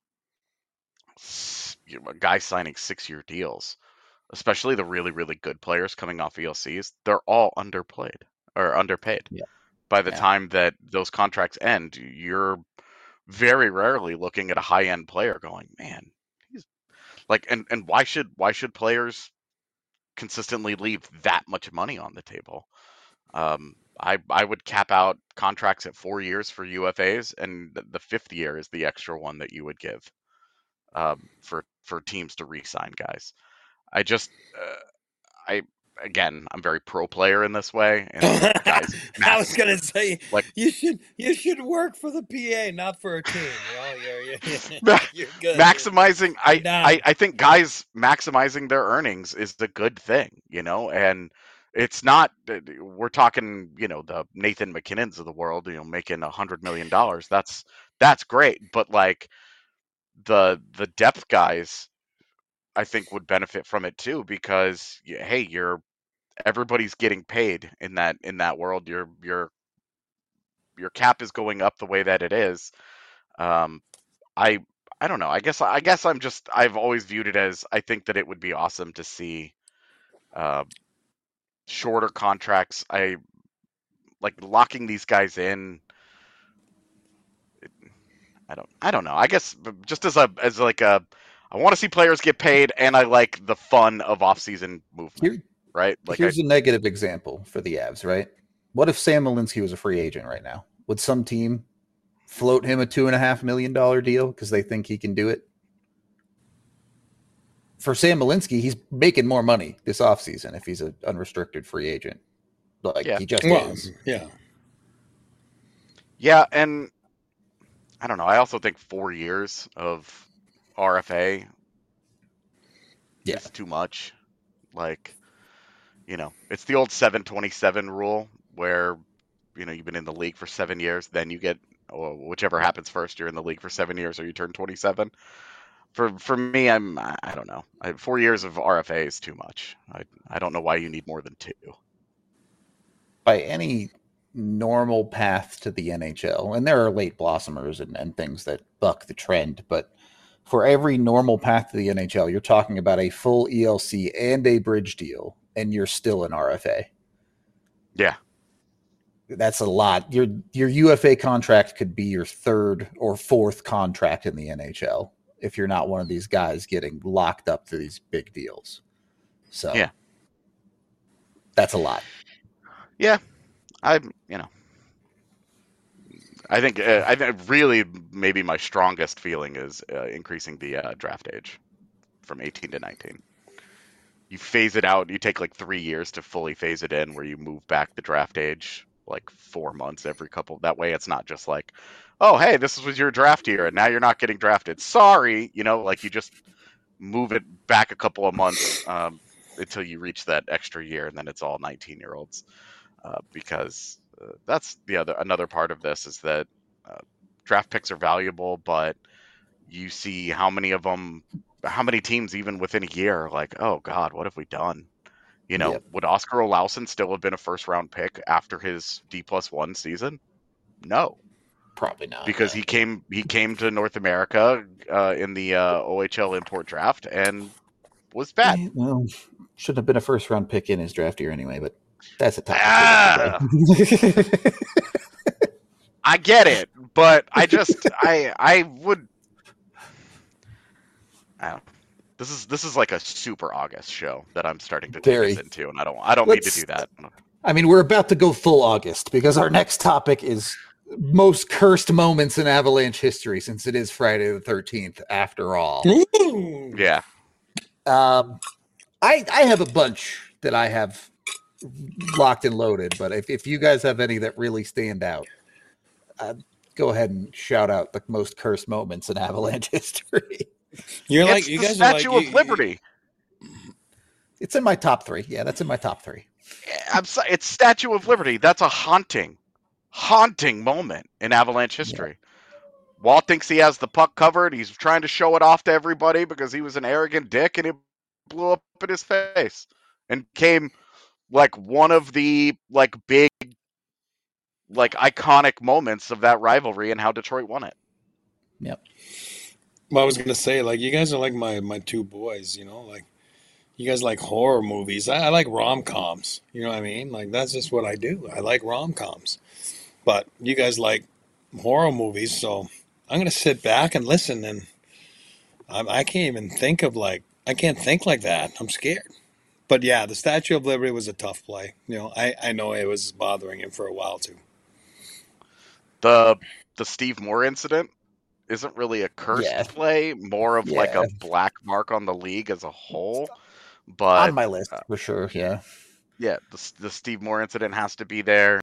guys signing 6-year deals, especially the really, really good players coming off ELCs, they're all underpaid. Yeah. By the time that those contracts end, you're very rarely looking at a high-end player going, man, he's like, and why should players consistently leave that much money on the table? I would cap out contracts at 4 years for UFAs, and the 5th year is the extra one that you would give for teams to re-sign guys. I'm very pro player in this way, and guys. I was gonna say, like, you should work for the PA, not for a team. You're good. Maximizing, I think guys maximizing their earnings is the good thing, and it's not. We're talking, the Nathan McKinnons of the world, making $100 million. That's great, but like the depth guys, I think would benefit from it too, because hey, everybody's getting paid in that world. Your cap is going up the way that it is. I don't know. I guess I've always viewed it as, I think that it would be awesome to see shorter contracts. I like locking these guys in. I don't know. I guess just I want to see players get paid, and I like the fun of off-season movement. Right? Like, here's a negative example for the Avs, right? What if Sam Malinsky was a free agent right now? Would some team float him a $2.5 million deal because they think he can do it? For Sam Malinsky, he's making more money this offseason if he's an unrestricted free agent. He just is. Yeah. Yeah, and I don't know. I also think 4 years of RFA is too much. Like, it's the old 7-27 rule where, you've been in the league for 7 years, then you get, or whichever happens first, you're in the league for 7 years or you turn 27. For me, I don't know. 4 years of RFA is too much. I don't know why you need more than 2. By any normal path to the NHL, and there are late blossomers and things that buck the trend, but for every normal path to the NHL, you're talking about a full ELC and a bridge deal, and you're still an RFA. Yeah. That's a lot. Your UFA contract could be your 3rd or 4th contract in the NHL if you're not one of these guys getting locked up to these big deals. So yeah, that's a lot. Yeah. I think really maybe my strongest feeling is increasing the draft age from 18 to 19. You phase it out. You take like 3 years to fully phase it in, where you move back the draft age like 4 months every couple. That way it's not just like, oh, hey, this was your draft year and now you're not getting drafted. Sorry. Like you just move it back a couple of months until you reach that extra year, and then it's all 19-year-olds. Because that's another part of this is that draft picks are valuable, but you see how many teams even within a year are like, oh God, what have we done? Would Oscar Olausson still have been a first-round pick after his D+1 season? No. Probably not. Because he came to North America in the OHL import draft and was bad. Well, shouldn't have been a first-round pick in his draft year anyway, but that's a topic. I get it, but I just I would. I don't. This is like a super August show that I'm starting to take us into, and I don't need to do that. I mean, we're about to go full August because our next topic is most cursed moments in Avalanche history, since it is Friday the 13th after all. Ooh. Yeah. I have a bunch that I have locked and loaded, but if you guys have any that really stand out, go ahead and shout out the most cursed moments in Avalanche history. You guys Statue of Liberty. It's in my top 3. Yeah, that's in my top 3. It's Statue of Liberty. That's a haunting moment in Avalanche history. Yeah. Walt thinks he has the puck covered. He's trying to show it off to everybody because he was an arrogant dick, and it blew up in his face and came like one of the big iconic moments of that rivalry and how Detroit won it. Yep. Well, I was gonna say, you guys are like my two boys, you guys like horror movies. I like rom-coms, you know what I mean? That's just what I do. I like rom-coms. But you guys like horror movies, so I'm gonna sit back and listen, and I can't even think of I can't think like that. I'm scared. But yeah, the Statue of Liberty was a tough play. I know it was bothering him for a while too. The Steve Moore incident isn't really a cursed play, more of a black mark on the league as a whole. But on my list for sure, yeah. Yeah, the Steve Moore incident has to be there.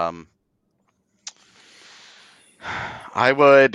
I would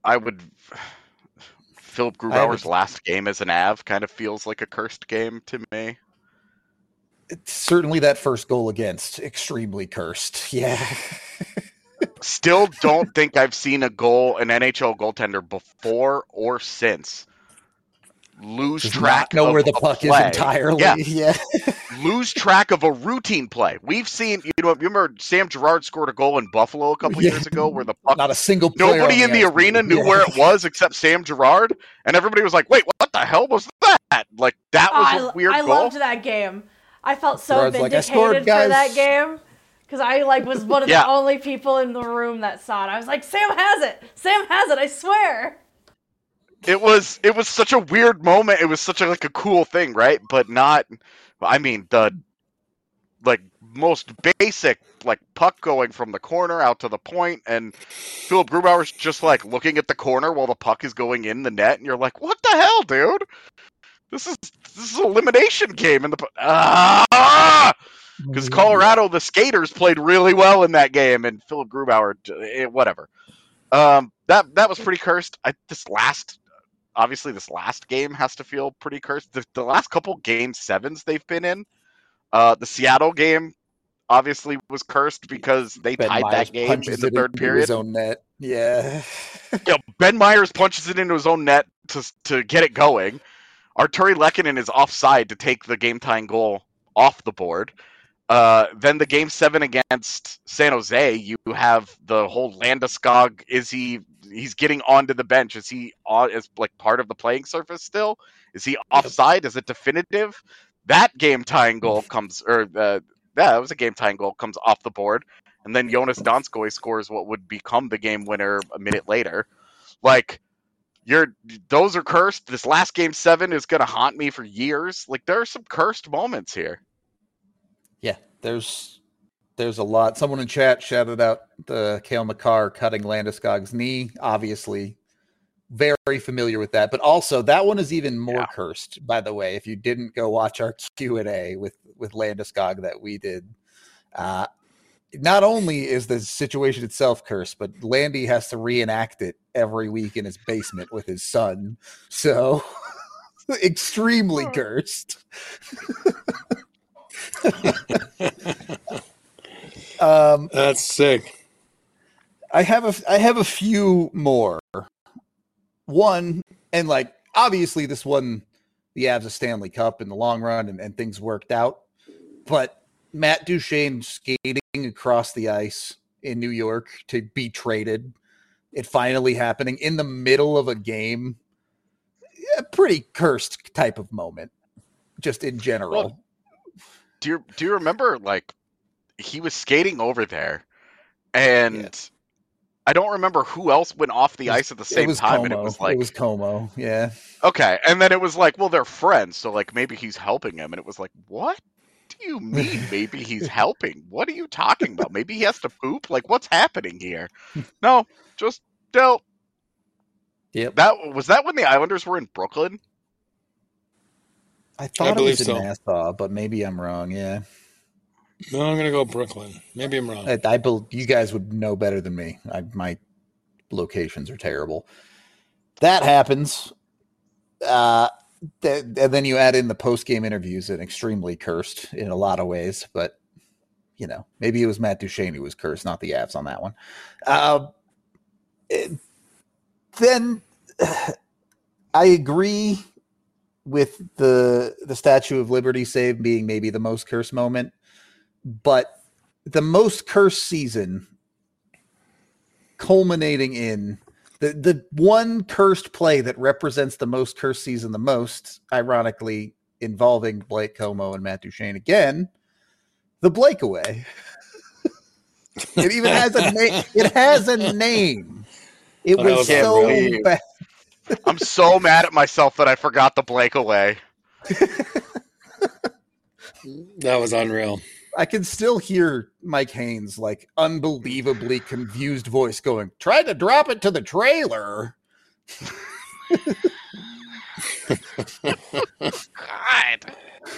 Philip Grubauer's last game as an Av kind of feels like a cursed game to me. It's certainly that first goal against, extremely cursed. Yeah. Still don't think I've seen an NHL goaltender before or since lose track know of where the puck play. Is entirely. Yeah. Lose track of a routine play. We've seen, you remember Sam Girard scored a goal in Buffalo a couple years ago where the puck, not a single player nobody in the arena knew where it was except Sam Girard, and everybody was like, "Wait, what the hell was that?" That was a weird goal. I loved that game. I felt so Girard's vindicated for that game. Because I was one of the only people in the room that saw it. I was like, Sam has it! Sam has it, I swear! It was such a weird moment. It was such a cool thing, right? But not, the most basic puck going from the corner out to the point, and Philip Grubauer's just looking at the corner while the puck is going in the net, and you're like, what the hell, dude? This is an elimination game in the because Colorado, the skaters played really well in that game, and Philip Grubauer, whatever. That was pretty cursed. This last game has to feel pretty cursed. The last couple game 7s they've been in, the Seattle game obviously was cursed because they tied that game in the third period. His own net. Yeah. Ben Myers punches it into his own net to get it going. Arturi Lehkonen is offside to take the game-tying goal off the board. Then the game 7 against San Jose, you have the whole Landeskog. He's getting onto the bench? Is he as part of the playing surface still? Is he offside? Is it definitive? That game tying goal comes, that was a game tying goal, comes off the board, and then Jonas Donskoi scores what would become the game winner a minute later. Those are cursed. This last game 7 is gonna haunt me for years. There are some cursed moments here. Yeah, there's a lot. Someone in chat shouted out the Cale Makar cutting Landeskog's knee. Obviously, very familiar with that. But also, that one is even more cursed, by the way, if you didn't go watch our Q&A with Landeskog that we did. Not only is the situation itself cursed, but Landy has to reenact it every week in his basement with his son. So, extremely cursed. That's sick. I have a few more. one, and like obviously this won the Avs a Stanley Cup in the long run, and things worked out. But Matt Duchene skating across the ice in New York to be traded, it finally happening in the middle of a game, a pretty cursed type of moment, just in general. Well, do you remember, like, he was skating over there, and I don't remember who else went off the ice at the same time. Como. And it was like, it was Como, yeah. Okay, and then it was like, well, they're friends, so like maybe he's helping him, and it was like, what do you mean? Maybe he's helping? What are you talking about? Maybe he has to poop? Like, what's happening here? No, just dealt. Yep. Was that when the Islanders were in Brooklyn? I thought it was in Nassau, but maybe I'm wrong. Yeah. No, I'm gonna go Brooklyn. Maybe I'm wrong. I believe you guys would know better than me. My locations are terrible. That happens. And then you add in the post-game interviews and extremely cursed in a lot of ways, but you know, maybe it was Matt Duchene who was cursed, not the Avs on that one. Then I agree with the Statue of Liberty save being maybe the most cursed moment, but the most cursed season culminating in the one cursed play that represents the most cursed season the most, ironically involving Blake Como and Matt Duchene again, the Blakeaway. It even has a name. It has a name. It was so bad. I'm so mad at myself that I forgot the Blakeaway. That was unreal. I can still hear Mike Haynes' like unbelievably confused voice going, "Try to drop it to the trailer." God.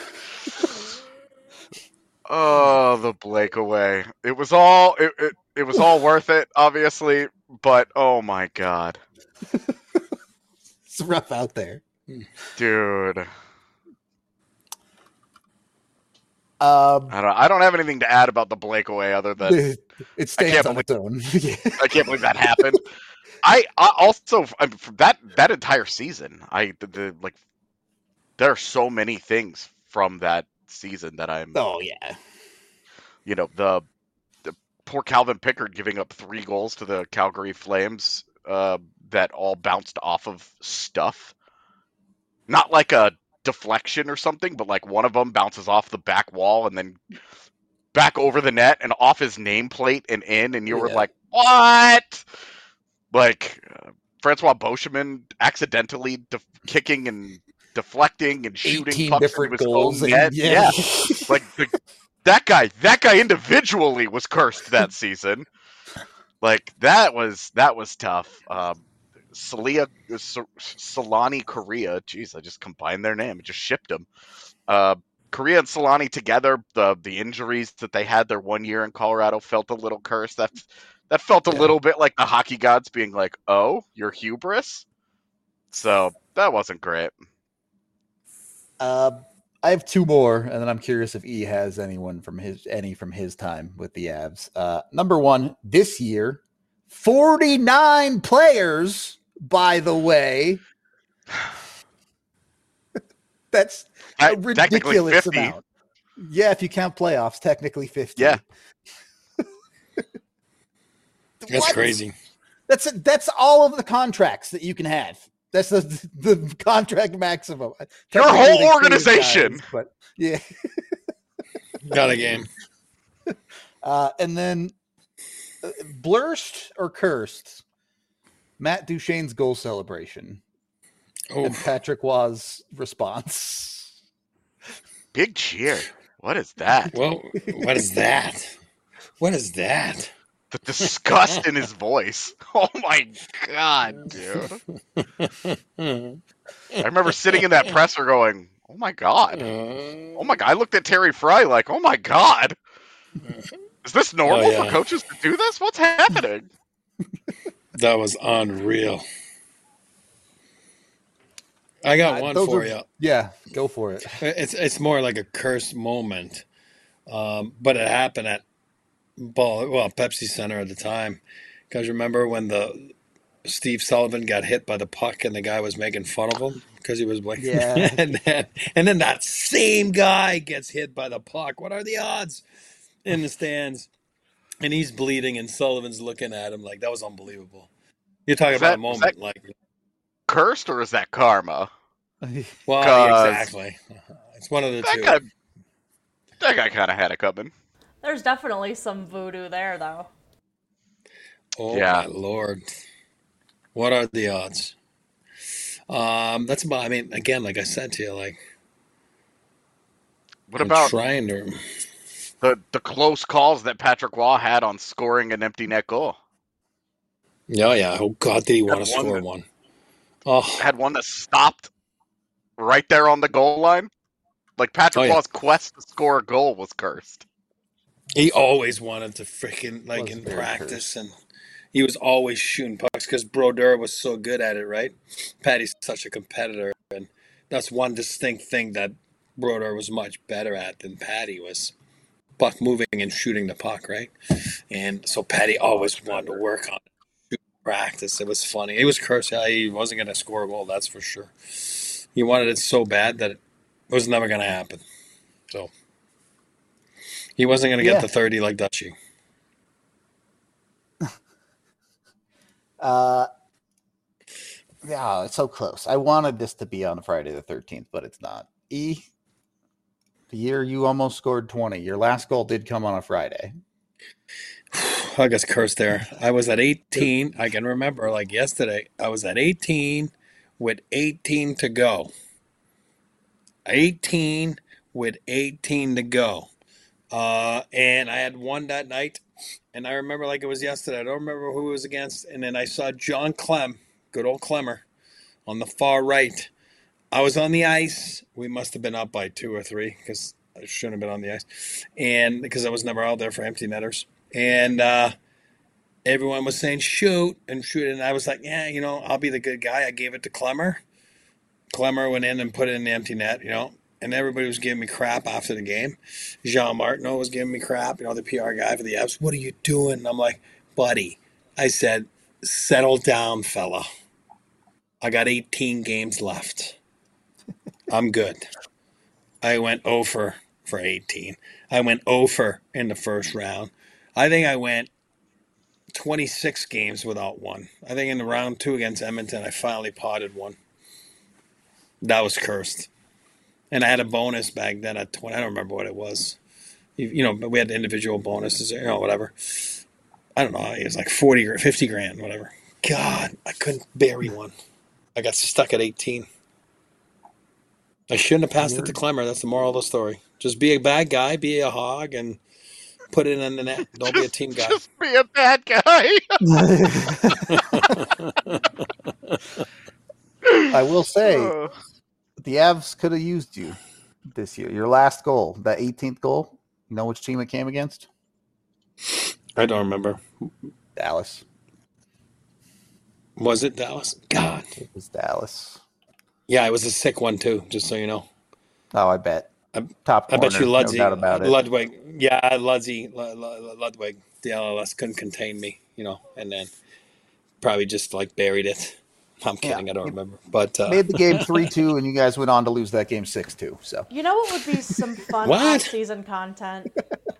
Oh, the Blakeaway. It was all it was all worth it, obviously, but oh my God. It's rough out there. Dude. I don't have anything to add about the Blakeaway other than it stands on its own. I can't believe that happened. I also for that entire season, like there are so many things from that season that I'm. Oh yeah. You know, the poor Calvin Pickard giving up 3 goals to the Calgary Flames that all bounced off of stuff. Not like a deflection or something, but like one of them bounces off the back wall and then back over the net and off his nameplate and in, and you were like, what? Like Francois Beauchemin accidentally kicking and deflecting and shooting pucks different into his goals own net. Yeah. Like that guy individually was cursed that season. Like that was tough. Solani Korea. Jeez, I just combined their name. I just shipped them. Korea and Solani together. The injuries that they had their 1 year in Colorado felt a little cursed. That felt a little bit like the hockey gods being like, "Oh, you're hubris." So that wasn't great. I have 2 more, and then I'm curious if E has any from his time with the Avs. Number 1, this year, 49 players. By the way, that's a ridiculous amount. Yeah, if you count playoffs, technically 50. Yeah, that's crazy. That's all of the contracts that you can have. That's the contract maximum. Your whole organization. Guys, but yeah, got a game. And then blurst or cursed. Matt Duchene's goal celebration. And Patrick Waugh's response. Big cheer. What is that? Well, what is that? What is that? The disgust in his voice. Oh my God, dude. I remember sitting in that presser going, oh my God. Oh my God. I looked at Terry Fry like, oh my God. Is this normal for coaches to do this? What's happening? That was unreal. I got one for you. Yeah, go for it. It's more like a cursed moment, but it happened at Pepsi Center at the time. Because remember when the Steve Sullivan got hit by the puck and the guy was making fun of him because he was like, yeah. and then that same guy gets hit by the puck. What are the odds in the stands? And he's bleeding and Sullivan's looking at him like that was unbelievable. You're talking about a moment like cursed or is that karma? Well, exactly. It's one of the two. That guy kind of had it coming. There's definitely some voodoo there, though. Oh, yeah. My Lord. What are the odds? That's about, I mean, again, like I said to you, like. What about trying to. The close calls that Patrick Waugh had on scoring an empty net goal? Oh, yeah. Oh, God, did he want to score one? Oh. Had one that stopped right there on the goal line. Like, Patrick Waugh's quest to score a goal was cursed. He always wanted to freaking, like, in practice, and he was always shooting pucks because Brodeur was so good at it, right? Patty's such a competitor, and that's one distinct thing that Brodeur was much better at than Patty was. Puck moving and shooting the puck, right? And so Patty always wanted to work on it. Practice. It was funny. It was cursed. He wasn't going to score a goal, that's for sure. He wanted it so bad that it was never going to happen. So he wasn't going to get the 30 like Dutchie. Yeah, it's so close. I wanted this to be on Friday the 13th, but it's not. The year you almost scored 20. Your last goal did come on a Friday. I guess cursed there. I was at 18. I can remember like yesterday. I was at 18 with 18 to go. 18 with 18 to go. And I had won that night. And I remember like it was yesterday. I don't remember who it was against. And then I saw John Clem, good old Clemmer, on the far right. I was on the ice. We must have been up by 2 or 3 because I shouldn't have been on the ice. And because I was never out there for empty netters. And everyone was saying shoot. And I was like, yeah, I'll be the good guy. I gave it to Clemmer. Clemmer went in and put it in the empty net, And everybody was giving me crap after the game. Jean Martineau was giving me crap, the PR guy for the Avs. What are you doing? And I'm like, buddy, I said, settle down, fella. I got 18 games left. I'm good. I went 0 for 18. I went 0 in the first round. I think I went 26 games without one. I think in the round 2 against Edmonton, I finally potted one. That was cursed. And I had a bonus back then at 20. I don't remember what it was. But we had individual bonuses, whatever. I don't know. It was like 40 or 50 grand, whatever. God, I couldn't bury one. I got stuck at 18. I shouldn't have passed it to Clemmer. That's the moral of the story. Just be a bad guy, be a hog, and put it in the net. Don't be a team guy. Just be a bad guy. I will say, the Avs could have used you this year. Your last goal, that 18th goal, you know which team it came against? I don't remember. Dallas. Was it Dallas? God. It was Dallas. Yeah, it was a sick one, too, just so you know. Oh, I bet. Top corner, I bet you Ludwig. No doubt about it. Ludwig. Yeah, Ludwig. The LLS couldn't contain me, and then probably just, buried it. I'm kidding. Yeah. I don't remember. But made the game 3-2, and you guys went on to lose that game 6-2. So you know what would be some fun off-season content?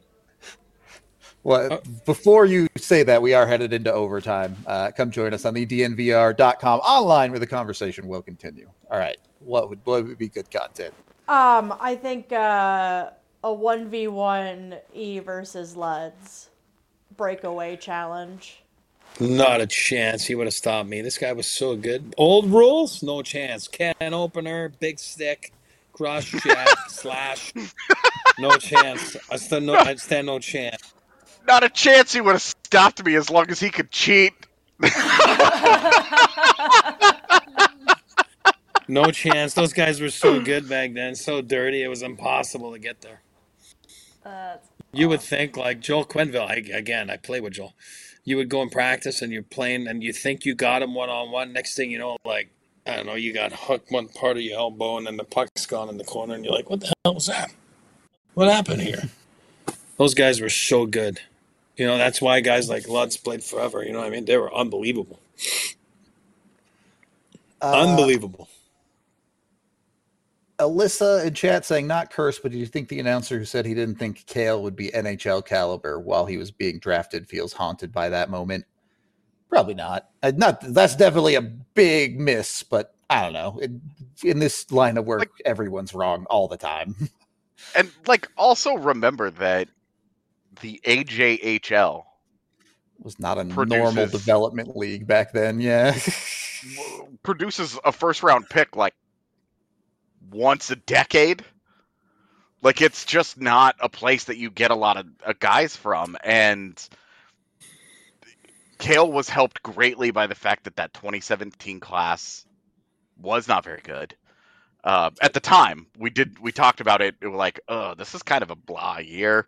Well, before you say that, we are headed into overtime. Come join us on the DNVR.com online where the conversation will continue. All right. What would be good content? I think a 1v1 E versus Luds breakaway challenge. Not a chance. He would have stopped me. This guy was so good. Old rules? No chance. Can opener, big stick, cross check, slash. No chance. I stand no chance. Not a chance he would have stopped me as long as he could cheat. No chance. Those guys were so good back then, so dirty, it was impossible to get there. You would think, like Joel Quenneville, I play with Joel. You would go and practice and you're playing and you think you got him one-on-one. Next thing you know, I don't know, you got hooked one part of your elbow and then the puck's gone in the corner and you're like, what the hell was that? What happened here? Those guys were so good. That's why guys like Lutz played forever. You know what I mean? They were unbelievable. Unbelievable. Alyssa in chat saying, not cursed, but do you think the announcer who said he didn't think Cale would be NHL caliber while he was being drafted feels haunted by that moment? Probably not. That's definitely a big miss, but I don't know. In this line of work, everyone's wrong all the time. And also remember that the AJHL was not a normal development league back then. Yeah. Produces a first round pick once a decade. It's just not a place that you get a lot of guys from. And Cale was helped greatly by the fact that 2017 class was not very good. At the time, we talked about it. It was this is kind of a blah year.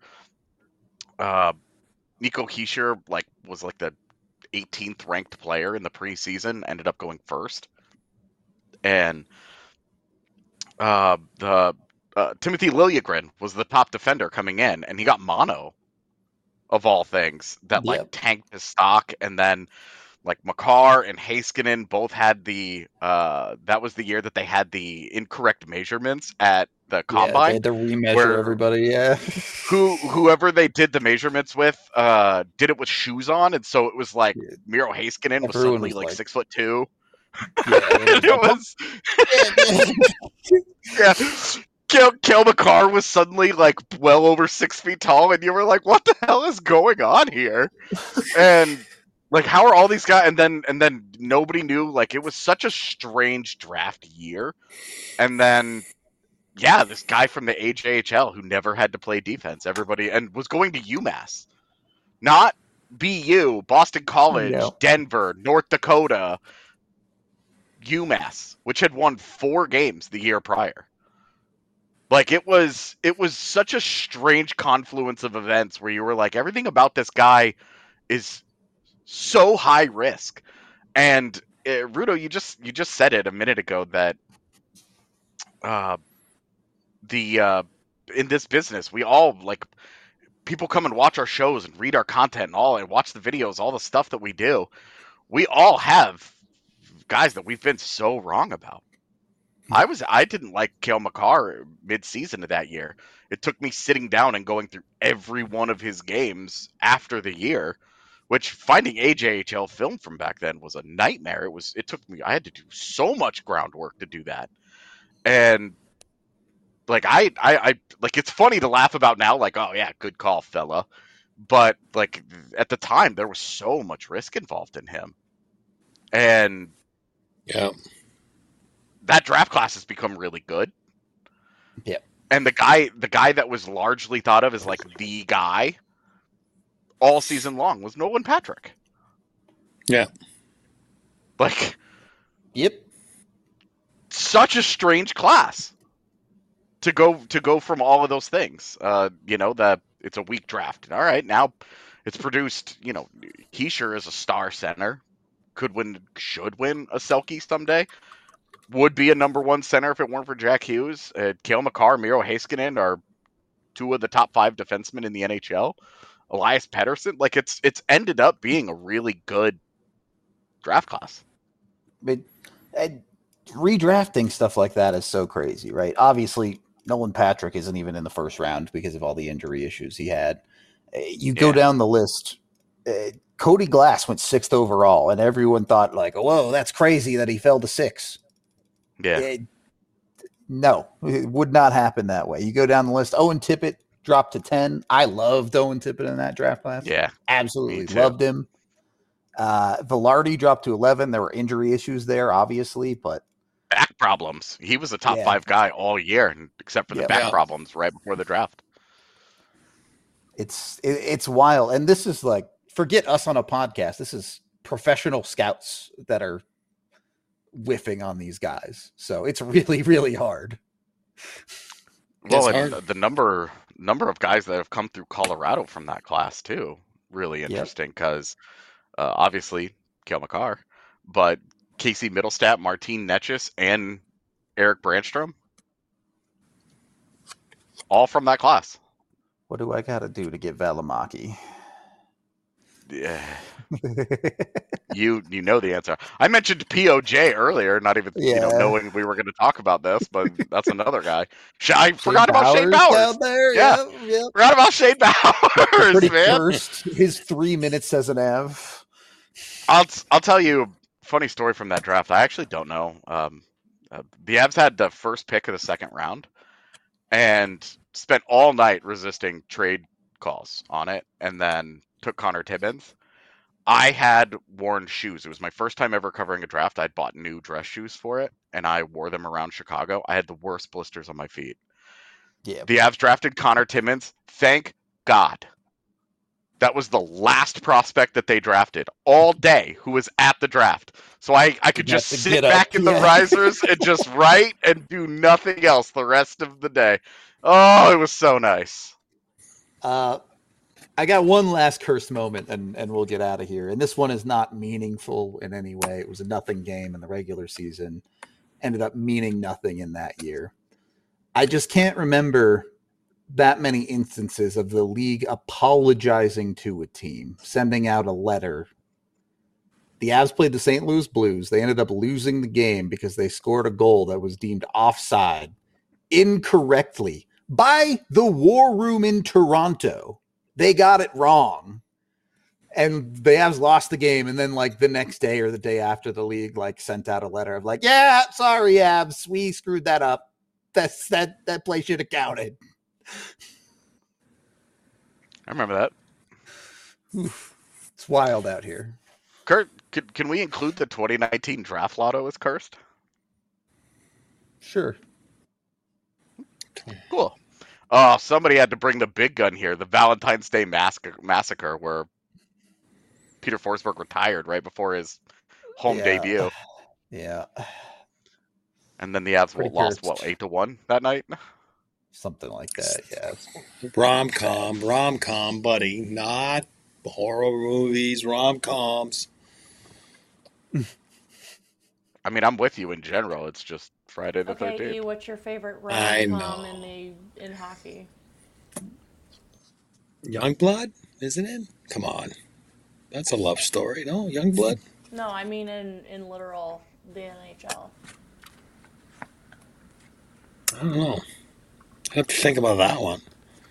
Nico Hischier was the 18th ranked player in the preseason, ended up going first. And Timothy Liljegren was the top defender coming in, and he got mono, of all things, that tanked his stock. And then Makar and Heiskanen both had that was the year that they had the incorrect measurements at the combine. They had to remeasure everybody. Yeah. Whoever they did the measurements with did it with shoes on, and so it was Miro Heiskanen was suddenly 6'2". Cale Makar was suddenly well over 6 feet tall, and you were like, "What the hell is going on here?" And how are all these guys? And then nobody knew. It was such a strange draft year. And then, this guy from the AJHL who never had to play defense, and was going to UMass, not BU, Boston College, Denver, North Dakota, UMass, which had won 4 games the year prior. It was such a strange confluence of events where you were everything about this guy is so high risk. And Rudo, you just said it a minute ago that in this business, we all people come and watch our shows and read our content and watch the videos, all the stuff that we do. We all have guys that we've been so wrong about. I didn't like Cale Makar mid-season of that year. It took me sitting down and going through every one of his games after the year, which finding AJHL film from back then was a nightmare. I had to do so much groundwork to do that. And I it's funny to laugh about now, oh yeah, good call, fella. But at the time there was so much risk involved in him. And that draft class has become really good. Yeah. And the guy that was largely thought of as the guy all season long was Nolan Patrick. Yeah. Yep. Such a strange class to go from all of those things. That it's a weak draft. All right, now it's produced, Hischier is a star center. Should win a Selke someday. Would be a number 1 center if it weren't for Jack Hughes. Cale Makar, Miro Heiskanen are 2 of the top 5 defensemen in the NHL. Elias Pettersson, it's ended up being a really good draft class. But redrafting stuff like that is so crazy, right? Obviously, Nolan Patrick isn't even in the first round because of all the injury issues he had. You go down the list. Cody Glass went 6th overall, and everyone thought whoa, that's crazy that he fell to 6. Yeah. No, it would not happen that way. You go down the list. Owen Tippett dropped to 10. I loved Owen Tippett in that draft class. Yeah. Absolutely loved him. Velarde dropped to 11. There were injury issues there, obviously, but back problems. He was a top 5 guy all year, except for the back problems right before the draft. It's wild. And this is forget us on a podcast. This is professional scouts that are whiffing on these guys. So it's really, really hard. Well, the number of guys that have come through Colorado from that class too, really interesting because obviously Cale Makar, but Casey Mittelstadt, Martin Necas, and Eric Brandstrom, all from that class. What do I got to do to get Valimaki? Yeah. You know the answer. I mentioned POJ earlier, not even knowing we were going to talk about this, but that's another guy. I forgot about Shane Bowers. There. Yeah, yep. Forgot about Shane Bowers. Pretty man. cursed. His 3 minutes as an Av. I'll tell you a funny story from that draft. I actually don't know. The Avs had the first pick of the second round and spent all night resisting trade calls on it, and then took Connor Timmins. I had worn shoes. It was my first time ever covering a draft. I'd bought new dress shoes for it, and I wore them around Chicago. I had the worst blisters on my feet. Yeah. The Avs drafted Connor Timmins. Thank God. That was the last prospect that they drafted all day who was at the draft. So I could just sit back in the risers and just write and do nothing else the rest of the day. Oh, it was so nice. I got one last cursed moment, and we'll get out of here. And this one is not meaningful in any way. It was a nothing game in the regular season. Ended up meaning nothing in that year. I just can't remember that many instances of the league apologizing to a team, sending out a letter. The Avs played the St. Louis Blues. They ended up losing the game because they scored a goal that was deemed offside incorrectly by the War Room in Toronto. They got it wrong. And the Avs lost the game. And then the next day or the day after, the league sent out a letter of yeah, sorry, Avs, we screwed that up. That play should have counted. I remember that. Oof. It's wild out here. Kurt, can we include the 2019 draft lotto as cursed? Sure. Cool. Oh, somebody had to bring the big gun here. The Valentine's Day massacre where Peter Forsberg retired right before his home debut. Yeah. And then the Avs lost, 8-1 that night? Something like that, yeah. Rom-com, buddy. Not horror movies, rom-coms. I mean, I'm with you in general. It's just Friday the 13th. Okay, what's your favorite rom-com in hockey? Youngblood, isn't it? Come on. That's a love story, no? Youngblood? No, I mean in literal, the NHL. I don't know. I have to think about that one.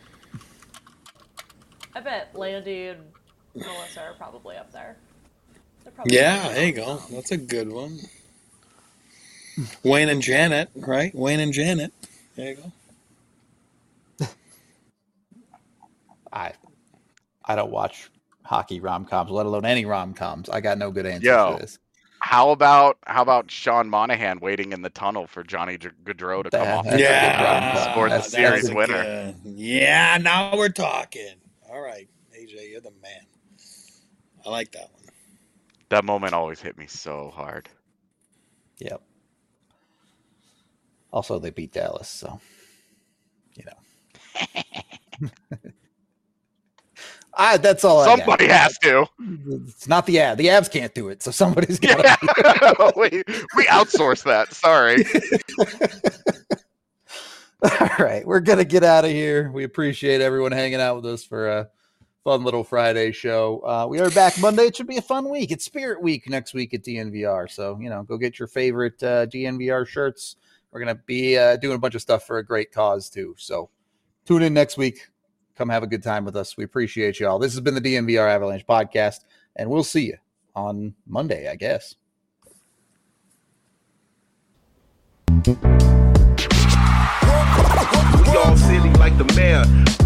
I bet Leody and Melissa are probably up there. There you go. That's a good one. Wayne and Janet, right? Wayne and Janet. There you go. I don't watch hockey rom-coms, let alone any rom-coms. I got no good answers to this. How about Sean Monahan waiting in the tunnel for Johnny Gaudreau to come off? Scored the series winner. Yeah, now we're talking. All right, AJ, you're the man. I like that one. That moment always hit me so hard. Yep. Also, they beat Dallas, so that's all. Somebody has to. It's not the Avs. The Avs can't do it, so somebody's got to. we outsource that. Sorry. All right, we're gonna get out of here. We appreciate everyone hanging out with us for a fun little Friday show. We are back Monday. It should be a fun week. It's Spirit Week next week at DNVR, so go get your favorite DNVR shirts. We're gonna be doing a bunch of stuff for a great cause too. So tune in next week. Come have a good time with us. We appreciate you all. This has been the DNVR Avalanche podcast, and we'll see you on Monday, I guess. We all silly like the mayor.